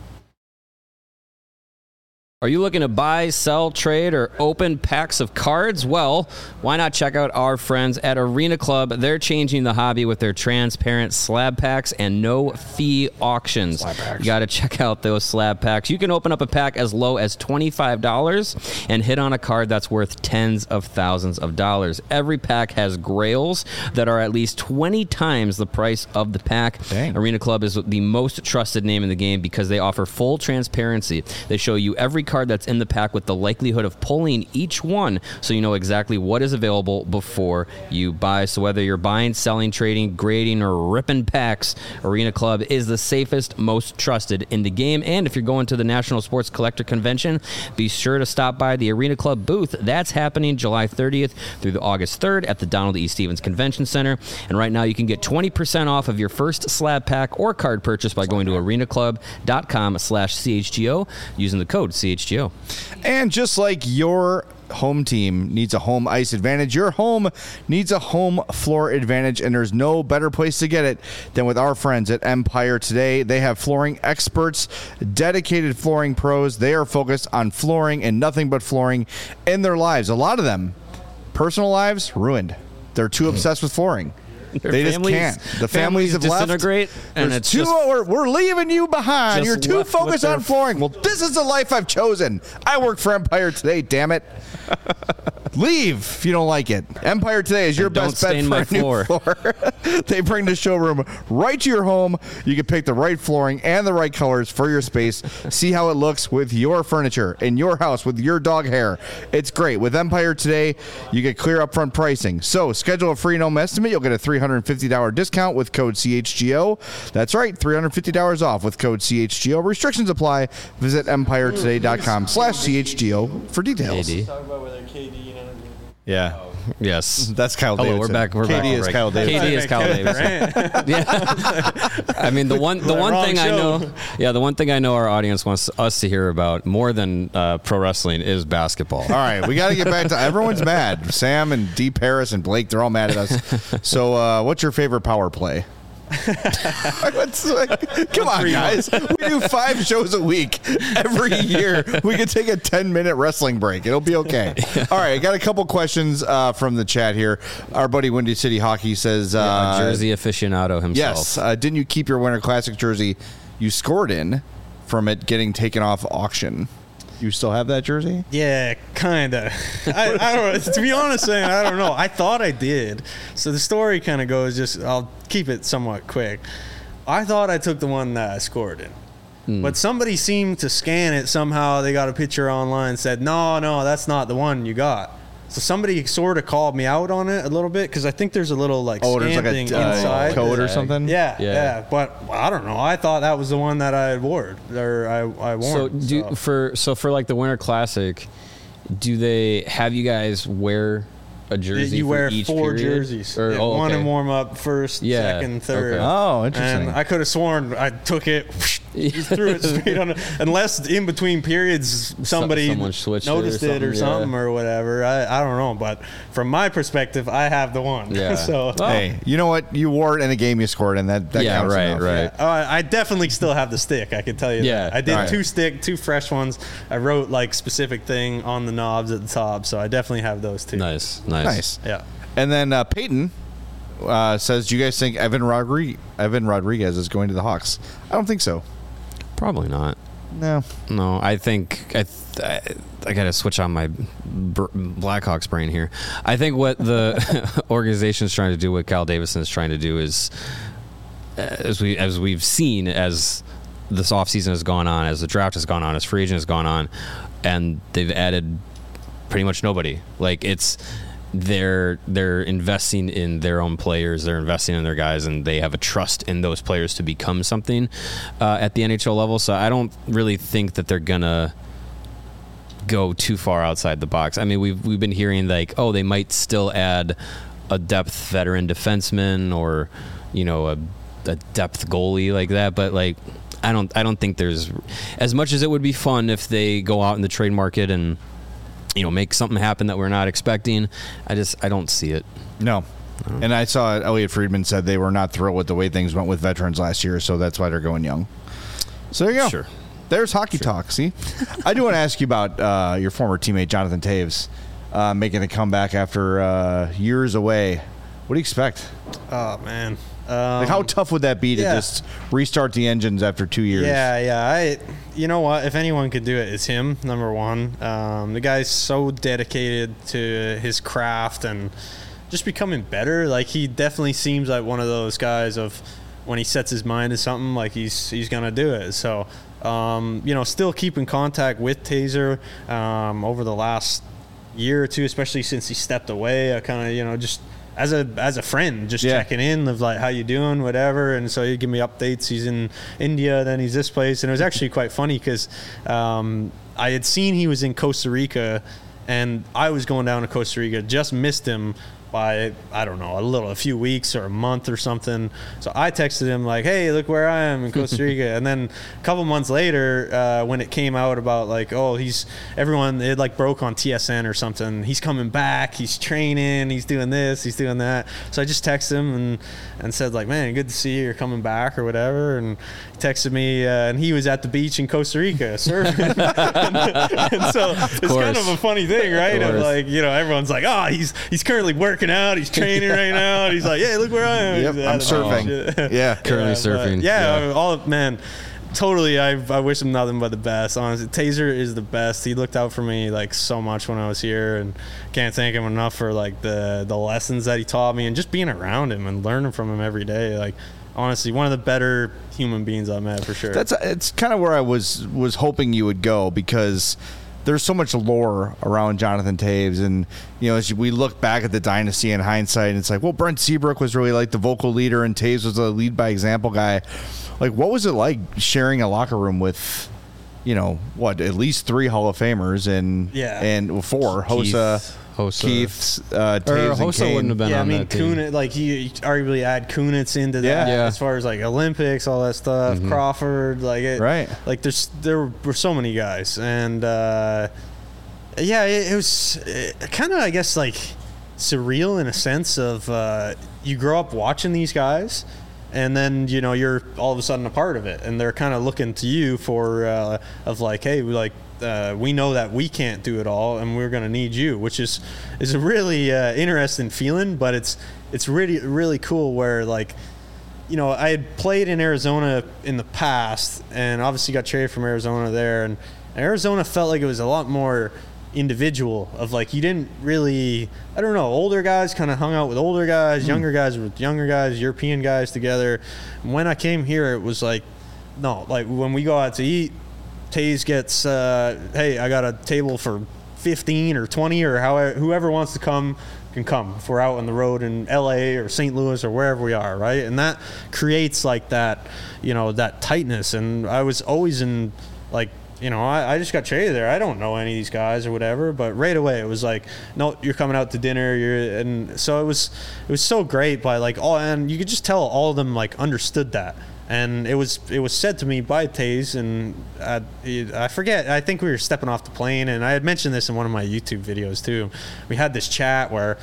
Are you looking to buy, sell, trade, or open packs of cards? Well, why not check out our friends at Arena Club? They're changing the hobby with their transparent slab packs and no-fee auctions. You got to check out those slab packs. You can open up a pack as low as $25 and hit on a card that's worth tens of thousands of dollars. Every pack has grails that are at least 20 times the price of the pack. Dang. Arena Club is the most trusted name in the game because they offer full transparency. They show you every card that's in the pack with the likelihood of pulling each one so you know exactly what is available before you buy. So whether you're buying, selling, trading, grading, or ripping packs, Arena Club is the safest, most trusted in the game. And if you're going to the National Sports Collector Convention, be sure to stop by the Arena Club booth. That's happening July 30th through the August 3rd at the Donald E. Stevens Convention Center. And right now you can get 20% off of your first slab pack or card purchase by going to arenaclub.com/CHGO using the code CHGO. And just like your home team needs a home ice advantage, your home needs a home floor advantage, and there's no better place to get it than with our friends at Empire Today. They have flooring experts, dedicated flooring pros. They are focused on flooring and nothing but flooring in their lives. A lot of them, personal lives, ruined. They're too obsessed with flooring. They just can't. The families have disintegrate, left. and it's we're leaving you behind. You're too focused on flooring. Well, this is the life I've chosen. I work for Empire Today, damn it. Leave if you don't like it. Empire Today is your best bet for a new floor. They bring the showroom right to your home. You can pick the right flooring and the right colors for your space. See how it looks with your furniture in your house with your dog hair. It's great. With Empire Today, you get clear upfront pricing. So schedule a free no estimate. You'll get a $350 discount with code CHGO. That's right, $350 off with code CHGO. Restrictions apply. Visit EmpireToday.com/CHGO for details. Talk about whether KD and Yeah. Yes. That's Kyle Davidson. We're back. KD is Kyle Davidson. KD is Kyle Davidson. Yeah. I mean, the one thing I know. Yeah, the one thing I know our audience wants us to hear about more than pro wrestling is basketball. All right, we got to get back to everyone's mad. Sam and Deep Harris and Blake, they're all mad at us. So, what's your favorite power play? Come on, guys. We do 5 shows a week every year. We can take a 10-minute wrestling break. It'll be okay. All right, I got a couple questions from the chat here. Our buddy Windy City Hockey says... Jersey aficionado himself. Yes. Didn't you keep your Winter Classic jersey you scored in from it getting taken off auction? You still have that jersey? Yeah, kind of. I don't know. To be honest, I don't know. I thought I did. So the story kind of goes, I'll keep it somewhat quick. I thought I took the one that I scored in. But somebody seemed to scan it somehow. They got a picture online and said, no, that's not the one you got. So somebody sort of called me out on it a little bit because I think there's a little like there's like stamping a inside. code or something. Yeah. But I don't know. I thought that was the one that I wore or I worn. So for like the Winter Classic, do they have you guys wear a jersey? You wear each 4 period? jerseys. Or, one in warm up, first, second, third. Okay. Oh, interesting. And I could have sworn I took it, just threw it straight on. Unless in between periods somebody noticed it or something or whatever. I don't know. But from my perspective, I have the one. Yeah. So hey, you know what? You wore it in a game you scored, and that counts enough. Right. Yeah. I definitely still have the stick. I can tell you. Yeah. That. I did 2 fresh ones. I wrote like specific thing on the knobs at the top, so I definitely have those too. Nice. Yeah. And then Peyton says, "Do you guys think Evan Rodriguez is going to the Hawks?" I don't think so. Probably not. No. I think I got to switch on my Blackhawks brain here. I think what the organization is trying to do, what Kyle Davison is trying to do, is as we've seen as this offseason has gone on, as the draft has gone on, as free agent has gone on, and they've added pretty much nobody. Like they're investing in their own players, they're investing in their guys, and they have a trust in those players to become something at the NHL level. So I don't really think that they're gonna go too far outside the box. I mean, we've been hearing like, oh, they might still add a depth veteran defenseman or a depth goalie like that, but like I don't think there's, as much as it would be fun if they go out in the trade market and make something happen that we're not expecting. I don't see it. No. And I saw Elliot Friedman said they were not thrilled with the way things went with veterans last year, so that's why they're going young. So there you go. Sure. There's hockey talk. See, I do want to ask you about your former teammate Jonathan Toews making a comeback after years away. What do you expect? Oh man. Like how tough would that be to just restart the engines after 2 years? Yeah. You know what? If anyone could do it, it's him. Number one, the guy's so dedicated to his craft and just becoming better. Like he definitely seems like one of those guys of when he sets his mind to something, like he's gonna do it. So, still keep in contact with Taser over the last year or two, especially since he stepped away. I kind of just as a friend, just checking in of like how you doing, whatever. And so he'd give me updates. He's in India, then he's this place, and it was actually quite funny because I had seen he was in Costa Rica, and I was going down to Costa Rica, just missed him by I don't know a few weeks or a month or something. So I texted him like, hey, look where I am in Costa Rica. And then a couple months later, when it came out about like, oh, it like broke on TSN or something, he's coming back, he's training, he's doing this, he's doing that. So I just texted him and said like, man, good to see you, you're coming back or whatever. And he texted me and he was at the beach in Costa Rica surfing. and so it's kind of a funny thing, right? Of like, everyone's like, oh, he's currently working out, he's training right now, and he's like, hey, look where I am. Yep, I'm surfing. Currently surfing. Man, totally. I wish him nothing but the best. Honestly, Taser is the best. He looked out for me like so much when I was here, and can't thank him enough for like the lessons that he taught me and just being around him and learning from him every day. Like honestly, one of the better human beings I've met for sure. It's kind of where I was hoping you would go, because there's so much lore around Jonathan Toews, and as we look back at the dynasty in hindsight, it's like, well, Brent Seabrook was really like the vocal leader, and Toews was a lead by example guy. Like, what was it like sharing a locker room with, at least 3 Hall of Famers and 4 Hossa, Keith, Toews, and Kane. Wouldn't have been on that team. Kunitz, like he arguably add Kunitz into that as far as like Olympics, all that stuff. Mm-hmm. Crawford, right? Like there were so many guys, and it was kind of, I guess, like surreal in a sense of you grow up watching these guys, and then you're all of a sudden a part of it, and they're kind of looking to you for of like, hey, we know that we can't do it all, and we're going to need you, which is a really interesting feeling. But it's really, really cool where like, I had played in Arizona in the past, and obviously got traded from Arizona there, and Arizona felt like it was a lot more individual of like, you didn't really, I don't know, older guys kind of hung out with older guys, younger guys with younger guys, European guys together. When I came here, it was like no, like when we go out to eat, Taze gets, hey, I got a table for 15 or 20 or however, whoever wants to come can come if we're out on the road in LA or St. Louis or wherever we are, right? And that creates like that, you know, that tightness. And I was always in like, you know, I just got traded there. I don't know any of these guys or whatever, but right away it was like, no, you're coming out to dinner. And so it was so great by like, and you could just tell all of them like understood that. And it was said to me by Taze, and I forget. I think we were stepping off the plane, and I had mentioned this in one of my YouTube videos too. We had this chat where,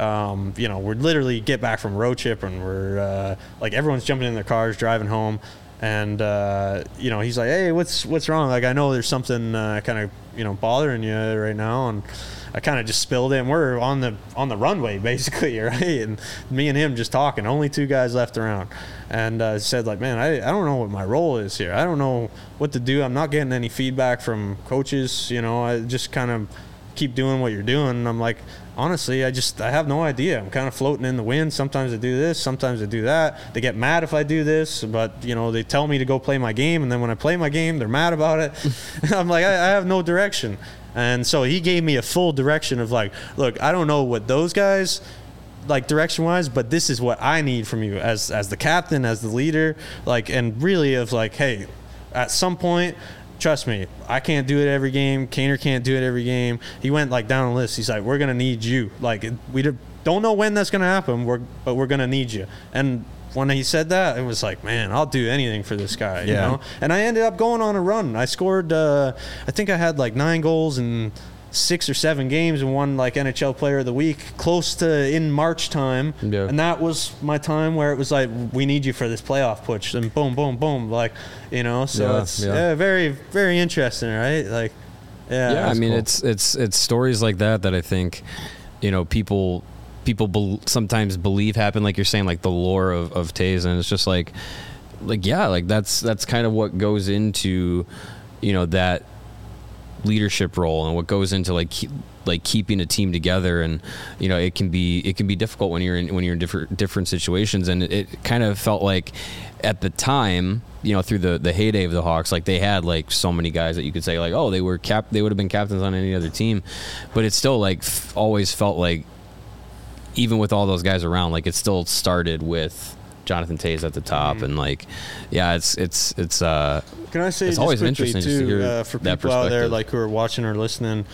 you know, we're literally get back from a road trip, and we're like everyone's jumping in their cars, driving home, and you know, he's like, "Hey, what's wrong? Like, I know there's something kind of, you know, bothering you right now," and I kind of just spilled it, and we're on the runway basically, right? And me and him just talking, only 2 guys left around, and said like, man, I don't know what my role is here. I don't know what to do. I'm not getting any feedback from coaches. You know, I just kind of keep doing what you're doing. And I'm like, honestly, I have no idea. I'm kind of floating in the wind. Sometimes I do this, sometimes I do that. They get mad if I do this, but you know, they tell me to go play my game, and then when I play my game, they're mad about it. I'm like, I have no direction. And so he gave me a full direction of like, look, I don't know what those guys like direction wise, but this is what I need from you as the captain, as the leader, like, and really of like, hey, at some point, trust me, I can't do it every game. Kaner can't do it every game. He went like down the list. He's like, we're going to need you. Like, we don't know when that's going to happen, but we're going to need you. And when he said that, it was like, man, I'll do anything for this guy, you know? And I ended up going on a run. I scored, I think I had like 9 goals in 6 or 7 games and won like NHL Player of the Week close to in March time. Yeah. And that was my time where it was like, we need you for this playoff push. And boom, boom, boom. Like, you know, so it's very, very interesting, right? Like, yeah, I mean, cool. It's stories like that I think, you know, people sometimes believe happen, like you're saying, like the lore of Taze, and it's just like yeah, like that's kind of what goes into, you know, that leadership role and what goes into like keeping a team together. And you know, it can be difficult when you're in different situations. And it kind of felt like at the time, you know, through the heyday of the Hawks, like they had like so many guys that you could say like, oh, they would have been captains on any other team, but it still like always felt like, even with all those guys around, like it still started with Jonathan Taze at the top. And like, yeah, it's can I say it's just always quickly interesting too, to hear for that people out there like who are watching or listening,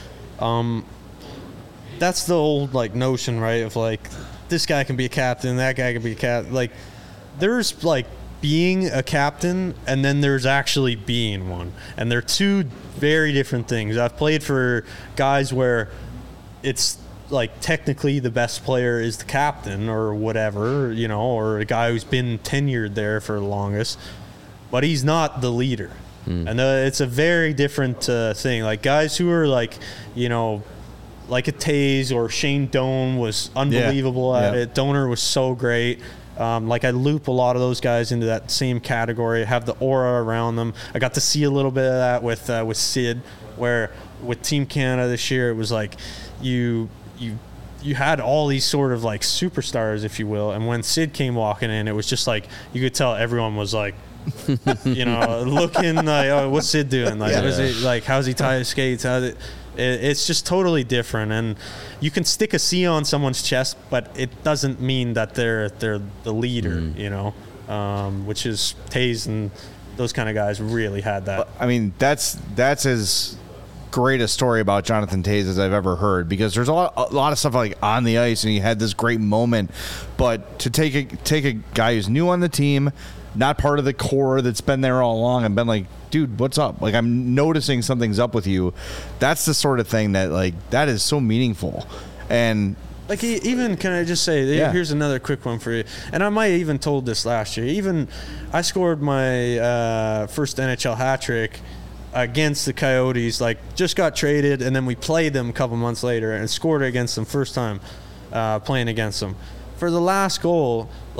that's the old like notion, right, of like this guy can be a captain, that guy can be a captain. Like there's like being a captain, and then there's actually being one, and they're 2 very different things. I've played for guys where it's like technically the best player is the captain or whatever, you know, or a guy who's been tenured there for the longest, but he's not the leader. And it's a very different thing. Like guys who are like, you know, like a Taze or Shane Doan was unbelievable at it. Donor was so great. Like I loop a lot of those guys into that same category, have the aura around them. I got to see a little bit of that with Sid, where with Team Canada this year, it was like you had all these sort of like superstars, if you will, and when Sid came walking in, it was just like you could tell everyone was like, you know, looking like, oh, what's Sid doing? Like, what is it, like, how's he tie his skates? It's just totally different, and you can stick a C on someone's chest, but it doesn't mean that they're the leader, you know, which is Taze and those kind of guys really had that. I mean, that's as great a story about Jonathan Taze as I've ever heard, because there's a lot of stuff like on the ice and he had this great moment, but to take a guy who's new on the team, not part of the core that's been there all along, and been like, dude, what's up? Like, I'm noticing something's up with you. That's the sort of thing that like that is so meaningful. And like, even, can I just say, here's another quick one for you. And I might have even told this last year. Even I scored my first NHL hat trick against the Coyotes, like just got traded, and then we played them a couple months later and scored against them first time playing against them. For the last goal, like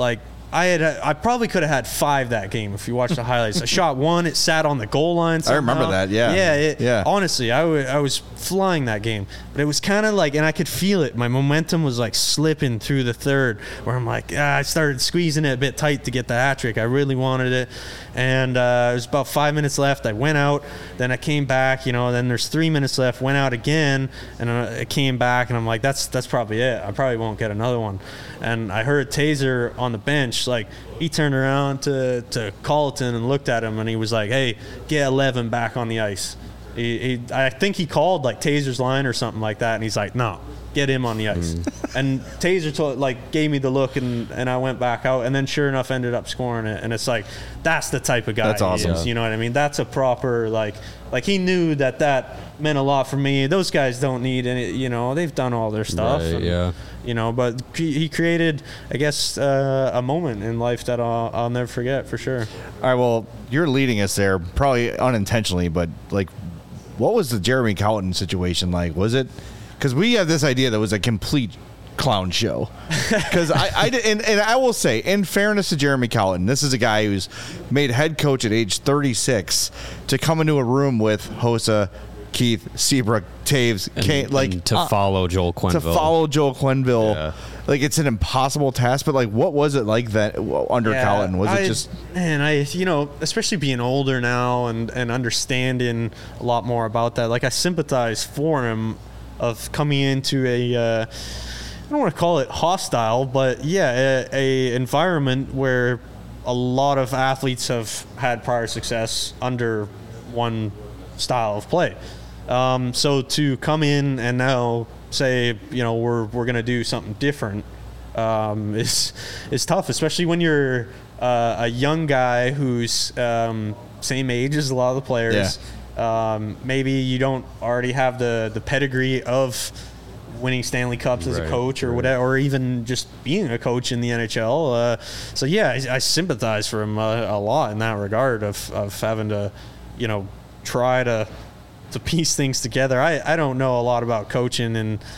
I probably could have had 5 that game if you watch the highlights. I shot 1, it sat on the goal line somehow. I remember that, yeah. Yeah, honestly, I was flying that game. But it was kind of like, and I could feel it. My momentum was like slipping through the third, where I'm like, I started squeezing it a bit tight to get the hat trick. I really wanted it. And it was about 5 minutes left. I went out, then I came back, then there's 3 minutes left, went out again, and I came back, and I'm like, that's probably it. I probably won't get another one. And I heard Taser on the bench, like, he turned around to Colleton and looked at him, and he was like, hey, get 11 back on the ice. I think he called, like, Taser's line or something like that, and he's like, no, get him on the ice. And Taser gave me the look, and I went back out, and then sure enough ended up scoring it. And it's like, that's the type of guy that's awesome. He is, you know what I mean? That's a proper, like he knew that meant a lot for me. Those guys don't need any, they've done all their stuff. Right, and, but he created, I guess, a moment in life that I'll never forget, for sure. All right, well, you're leading us there, probably unintentionally, but, like, what was the Jeremy Colleton situation like? Was it... Because we have this idea that was a complete clown show. Because I will say, in fairness to Jeremy Colleton, this is a guy who's made head coach at age 36 to come into a room with Hossa, Keith, Seabrook, Taves, Kane, like to follow Joel Quenneville. To follow Joel Quenneville. Yeah. Like, it's an impossible task, but, like, what was it like that under Colleton? Was it just... Man, especially being older now and understanding a lot more about that, like, I sympathize for him of coming into I don't want to call it hostile, but a environment where a lot of athletes have had prior success under one style of play. So to come in and now say, we're going to do something different is tough, especially when you're a young guy who's same age as a lot of the players. Yeah. Maybe you don't already have the pedigree of winning Stanley Cups as a coach or whatever, or even just being a coach in the NHL. I sympathize for him a lot in that regard of having to, try to piece things together. I don't know a lot about coaching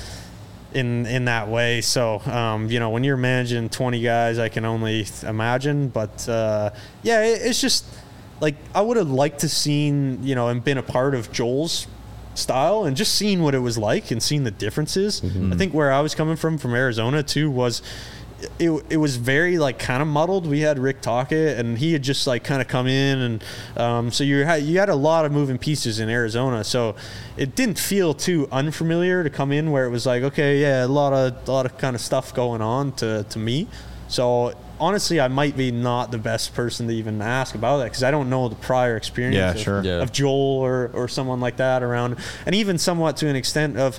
in that way. So, when you're managing 20 guys, I can only imagine. But, it's just like I would have liked to seen, and been a part of Joel's style and just seen what it was like and seen the differences. Mm-hmm. I think where I was coming from Arizona too was it was very like kind of muddled. We had Rick Tocchet and he had just like kind of come in and so you had a lot of moving pieces in Arizona, so it didn't feel too unfamiliar to come in where it was like, okay, yeah, a lot of kind of stuff going on to me. So honestly, I might be not the best person to even ask about that because I don't know the prior experience of Joel or someone like that around, and even somewhat to an extent of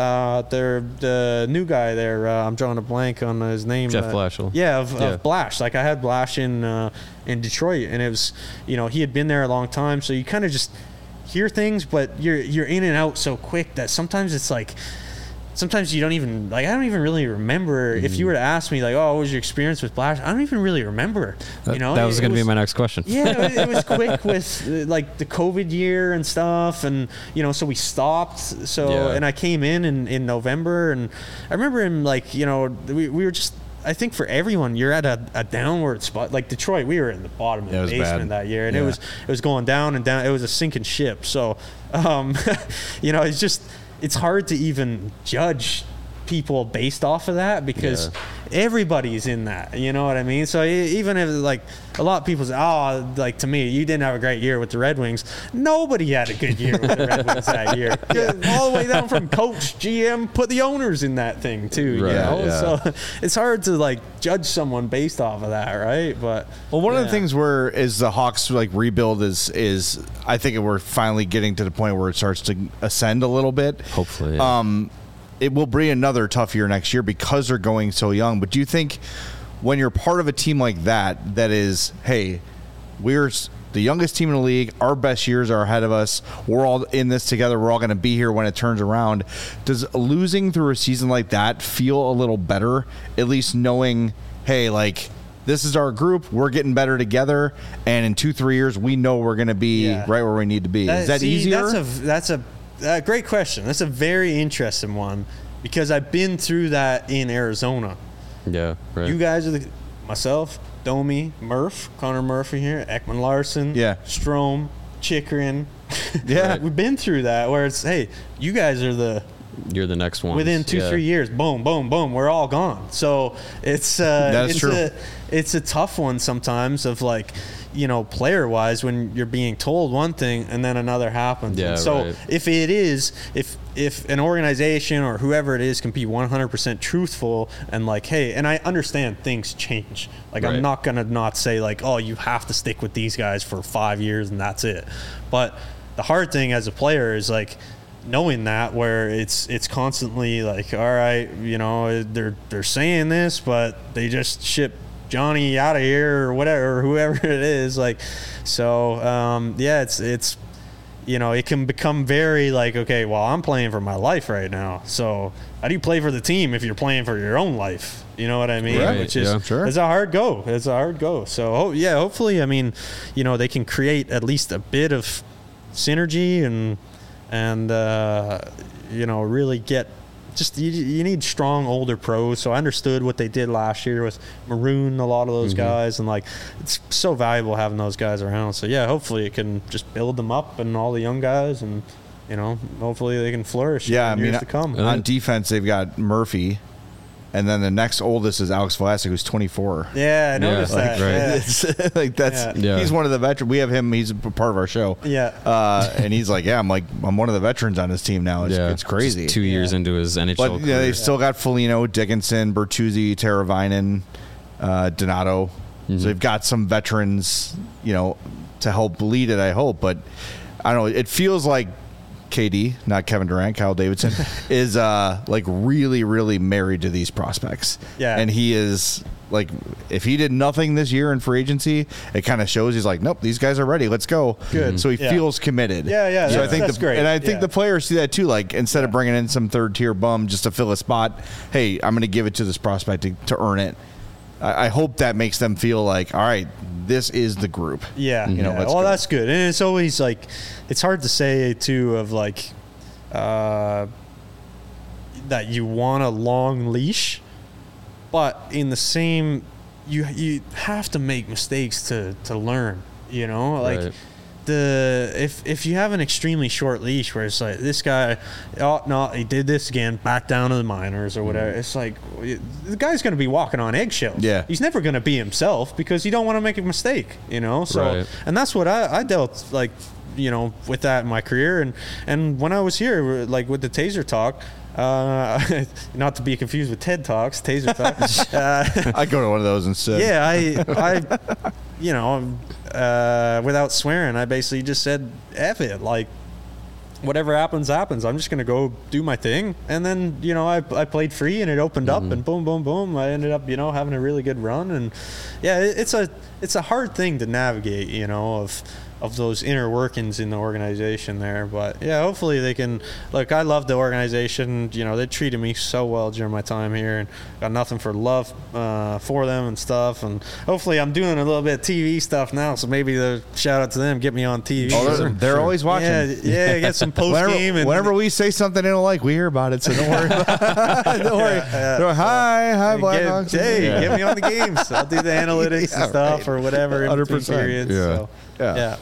the new guy there. I'm drawing a blank on his name. Jeff Blashill. Of Blash. Like I had Blash in Detroit, and it was he had been there a long time, so you kind of just hear things, but you're in and out so quick that sometimes it's like. Sometimes you don't even I don't even really remember. If you were to ask me what was your experience with Blash, I don't even really remember. That was going to be my next question. Yeah, it was quick with like the COVID year and stuff, and so we stopped. So and I came in November, and I remember him we were just. I think for everyone, you're at a downward spot. Like Detroit, we were in the bottom of the basement that year, and it was going down and down. It was a sinking ship. So, it's just. It's hard to even judge people based off of that because everybody's in that, you know what I mean? So even if a lot of people say, to me, you didn't have a great year with the Red Wings. Nobody had a good year with the Red Wings that year. All the way down from coach, GM, put the owners in that thing too, So it's hard to judge someone based off of that, right? But one of the things is the Hawks rebuild is I think we're finally getting to the point where it starts to ascend a little bit. Hopefully. It will be another tough year next year because they're going so young. But do you think when you're part of a team like that is, hey, we're the youngest team in the league, our best years are ahead of us, we're all in this together, we're all going to be here when it turns around, does losing through a season like that feel a little better, at least knowing, hey, this is our group, we're getting better together, and in 2-3 years, we know we're going to be right where we need to be? Is that easier? That's a great question. That's a very interesting one because I've been through that in Arizona. Yeah, right. You guys are myself, Domi, Murph, Connor Murphy here, Ekman Larson, Yeah. Strome, Chikrin. Yeah. We've been through that where it's, hey, you guys are You're the next one. within 2-3 years, boom, boom, boom, we're all gone. So it's That's true. It's a tough one sometimes of like, you know, player wise when you're being told one thing and then another happens. Yeah, And so right. if an organization or whoever it is can be 100% truthful and like, hey, and I understand things change. Like Right. I'm not gonna not say like, oh, you have to stick with these guys for 5 years and that's it. But the hard thing as a player is like knowing that where it's constantly like, all right, you know, they're saying this, but they just ship Johnny out of here or whatever, or whoever it is. Like, so yeah, it's you know, it can become very like, okay, well, I'm playing for my life right now. So how do you play for the team if you're playing for your own life? You know what I mean? Right, Which is yeah. Sure. it's a hard go. It's a hard go. So yeah, hopefully, I mean, you know, they can create at least a bit of synergy and you know, really get just you need strong older pros. So I understood what they did last year with Maroon, a lot of those guys, and like it's so valuable having those guys around. So yeah, hopefully it can just build them up and all the young guys, and you know, hopefully they can flourish. Yeah, in I mean, years to come. on defense, they've got Murphy, and then the next oldest is Alex Vlasic, who's 24. Yeah, I noticed like, that. right. Yeah. It's like that's Yeah. he's one of the veterans. We have him. He's a part of our show. Yeah. And he's like, yeah, I'm one of the veterans on his team now. It's crazy. Just 2 years into his NHL But career. they've still got Foligno, Dickinson, Bertuzzi, Teravainen, Donato. So they've got some veterans, you know, to help lead it. I hope, but I don't know. It feels like KD, not Kevin Durant, Kyle Davidson, is like really, really married to these prospects. Yeah. And he is like, if he did nothing this year in free agency, it kind of shows he's like, nope, these guys are ready. Let's go. Good. So he Yeah. feels committed. Yeah, yeah, So I think that's great. And I think Yeah. the players see that too. Like instead of bringing in some third tier bum just to fill a spot, hey, I'm going to give it to this prospect to earn it. I hope that makes them feel like, all right, this is the group. Yeah, You know, yeah. let's Well, go. that's good, and it's always like, it's hard to say too of like, that you want a long leash, but in the same, you have to make mistakes to learn. You know, like. Right. If you have an extremely short leash where it's like this guy, oh no, he did this again, back down to the minors or whatever. It's like the guy's going to be walking on eggshells. Yeah. He's never going to be himself because you don't want to make a mistake, you know. So Right. and that's what I dealt like, you know, with that in my career and when I was here, like with the Taser Talk. Not to be confused with TED Talks, Taser Talk. I go to one of those instead. Yeah, I you know, without swearing, I basically just said, F it. Like, whatever happens, happens. I'm just going to go do my thing. And then, you know, I played free and it opened up and boom, boom, boom. I ended up, you know, having a really good run. And, yeah, it's a hard thing to navigate, you know, of those inner workings in the organization there. But yeah, hopefully they can. Look, I love the organization. You know, they treated me so well during my time here, and got nothing for love for them and stuff. And hopefully I'm doing a little bit of TV stuff now, so maybe the shout out to them, get me on TV. Oh, they're always watching. Yeah, get some post game. Whenever we say something they don't like, we hear about it. So don't worry. Don't worry. Hi, Blackhawks. Get me on the games. I'll do the analytics and stuff right. or whatever in between 100%. periods. Yeah. So, yeah.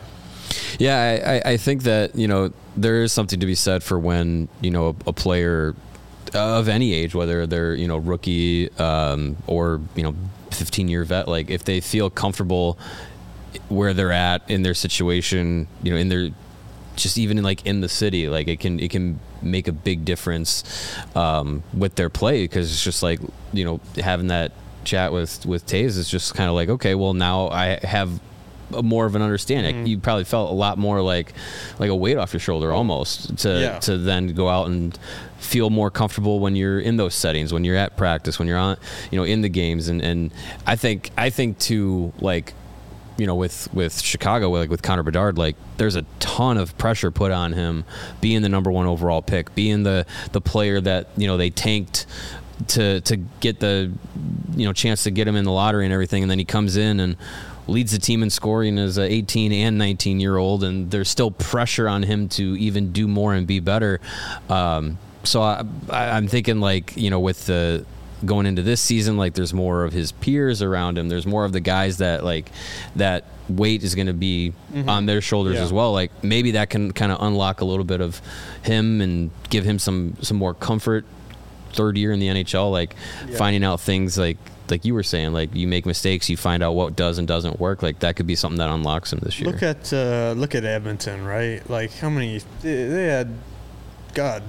Yeah, I think that, you know, there is something to be said for when, you know, a player of any age, whether they're, you know, rookie or, you know, 15-year vet, like if they feel comfortable where they're at in their situation, you know, in their, just even in like in the city, like it can make a big difference with their play, because it's just like, you know, having that chat with Taze is just kind of like, okay, well now I have more of an understanding. You probably felt a lot more like a weight off your shoulder almost to then go out and feel more comfortable when you're in those settings, when you're at practice, when you're on, you know, in the games. And I think too, like, you know, with Chicago, like with Connor Bedard, like there's a ton of pressure put on him being the number 1 overall pick, being the player that, you know, they tanked to get the, you know, chance to get him in the lottery and everything. And then he comes in and leads the team in scoring as a 18 and 19-year-old, and there's still pressure on him to even do more and be better. So I'm thinking, like, you know, with the going into this season, like there's more of his peers around him. There's more of the guys that like that weight is going to be on their shoulders as well. Like maybe that can kind of unlock a little bit of him and give him some more comfort. Third year in the NHL, like finding out things like you were saying, like you make mistakes, you find out what does and doesn't work. Like that could be something that unlocks him this year. Look at Edmonton, right? Like how many they had, God,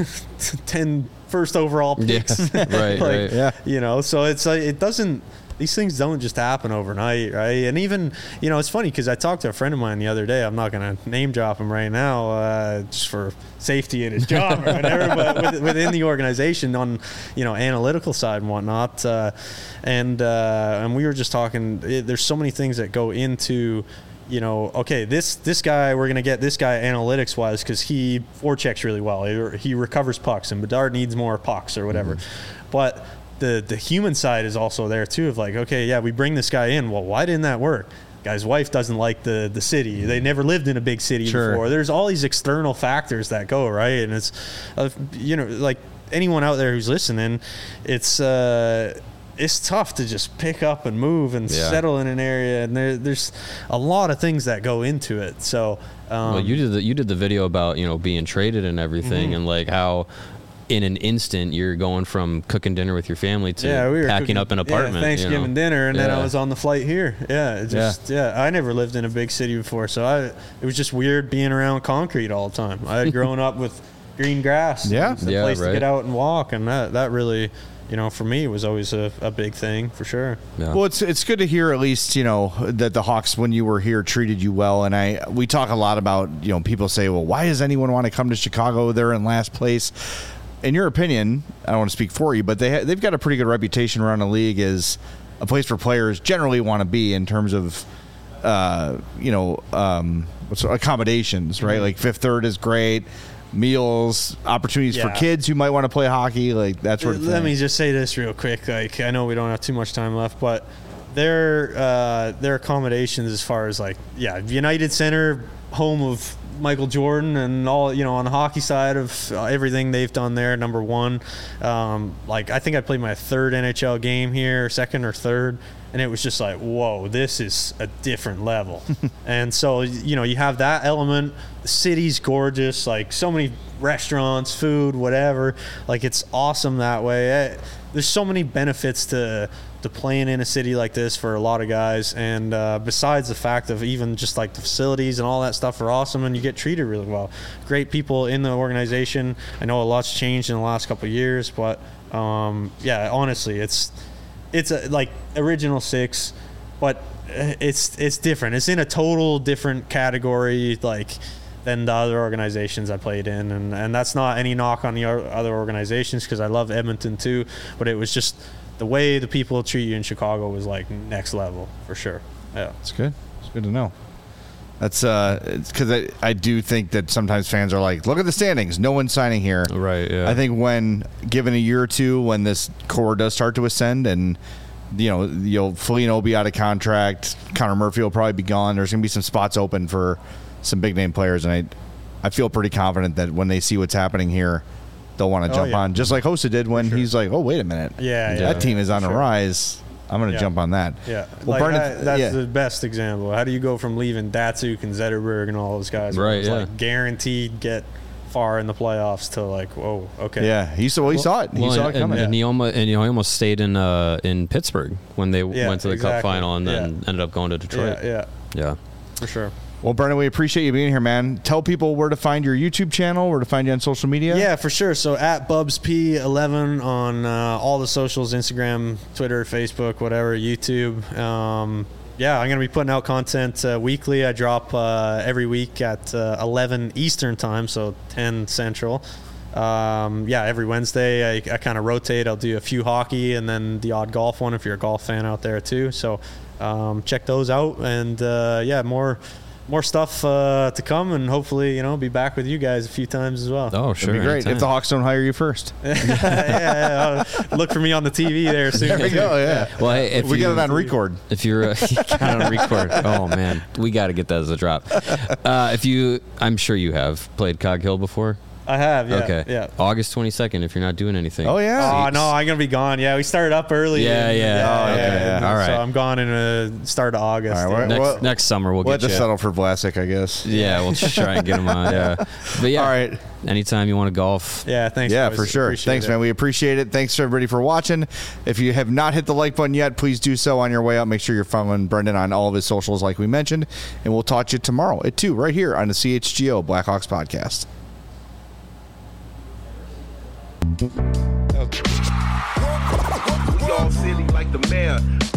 10 first overall picks. Yeah. Right, like, right. Yeah. So it's like it doesn't. These things don't just happen overnight, right? And even, it's funny because I talked to a friend of mine the other day. I'm not going to name drop him right now just for safety in his job or whatever, but within the organization on, analytical side and whatnot. And we were just talking, there's so many things that go into, okay, this guy, we're going to get this guy analytics-wise because he forechecks really well. He recovers pucks, and Bedard needs more pucks or whatever. But the human side is also there too of like, okay, yeah, we bring this guy in. Well, why didn't that work? Guy's wife doesn't like the city. They never lived in a big city before. There's all these external factors that go, right? And it's, like anyone out there who's listening, it's tough to just pick up and move and settle in an area. And there's a lot of things that go into it. So, well, you did the video about, being traded and everything and like how, in an instant, you're going from cooking dinner with your family to we were packing up an apartment. Thanksgiving dinner, and then I was on the flight here. I never lived in a big city before, so it was just weird being around concrete all the time. I had grown up with green grass, a place to get out and walk, and that really, for me, was always a big thing for sure. Yeah. Well, it's good to hear at least, that the Hawks, when you were here, treated you well. And we talk a lot about, people say, well, why does anyone want to come to Chicago? They're in last place. In your opinion, I don't want to speak for you, but they've got a pretty good reputation around the league as a place where players generally want to be in terms of, accommodations, right? Like Fifth Third is great, meals, opportunities for kids who might want to play hockey, like that sort of thing. Let me just say this real quick. Like I know we don't have too much time left, but their accommodations as far as United Center, home of Michael Jordan and all, on the hockey side of everything they've done there, number one. I think I played my third NHL game here, second or third, and it was just like, whoa, this is a different level. And so, you have that element. The city's gorgeous, like so many restaurants, food, whatever. Like it's awesome that way. There's so many benefits to playing in a city like this for a lot of guys, and besides the fact of even just like the facilities and all that stuff are awesome, and you get treated really well. Great people in the organization. I know a lot's changed in the last couple of years, but honestly, it's like Original Six, but it's different. It's in a total different category, like than the other organizations I played in, and that's not any knock on the other organizations because I love Edmonton too, but it was just the way the people treat you in Chicago was like next level for sure. Yeah, it's good. It's good to know. That's it's because I do think that sometimes fans are like, look at the standings, no one's signing here. Right. Yeah. I think when given a year or two, when this core does start to ascend, and Foligno will be out of contract, Connor Murphy will probably be gone. There's going to be some spots open for some big name players, and I feel pretty confident that when they see what's happening here, they'll want to jump on, just like Hossa did when he's like, oh, wait a minute. That team is on the rise. I'm going to jump on that. Yeah. Well, that's the best example. How do you go from leaving Datsuk and Zetterberg and all those guys? Right, like guaranteed get far in the playoffs to like, whoa, okay. Yeah, he saw it. He saw it coming. And he almost stayed in Pittsburgh when they went to the Cup final and then ended up going to Detroit. Yeah. For sure. Well, Brendan, we appreciate you being here, man. Tell people where to find your YouTube channel, where to find you on social media. Yeah, for sure. So at BubsP11 on all the socials, Instagram, Twitter, Facebook, whatever, YouTube. I'm going to be putting out content weekly. I drop every week at 11 Eastern time, so 10 Central. Every Wednesday I kind of rotate. I'll do a few hockey and then the odd golf one if you're a golf fan out there too. So check those out, and more stuff to come, and hopefully, be back with you guys a few times as well. Oh, sure. That'd be great. Anytime. If the Hawks don't hire you first. Look for me on the TV there soon. There we go, yeah. Well, hey, if we got it on record. If you're got it on record. Oh, man. We got to get that as a drop. I'm sure you have played Cog Hill before. I have, yeah. Okay. Yeah. August 22nd, if you're not doing anything. Oh, yeah. Oh, no, I'm going to be gone. Yeah, we started up early. Yeah, yeah. okay, yeah. All right. So I'm gone in the start of August. All right, yeah. Next summer, we'll We'll have get to you. settle for Vlasic, I guess. Yeah, we'll just try and get him on. Yeah. But yeah. All right. Anytime you want to golf. Yeah, thanks. Yeah, boys. for sure. Appreciate Thanks, it. man. We appreciate it. Thanks to everybody for watching. If you have not hit the like button yet, please do so on your way out. Make sure you're following Brendan on all of his socials like we mentioned. And we'll talk to you tomorrow at 2 right here on the CHGO Blackhawks podcast. We all silly like the mayor.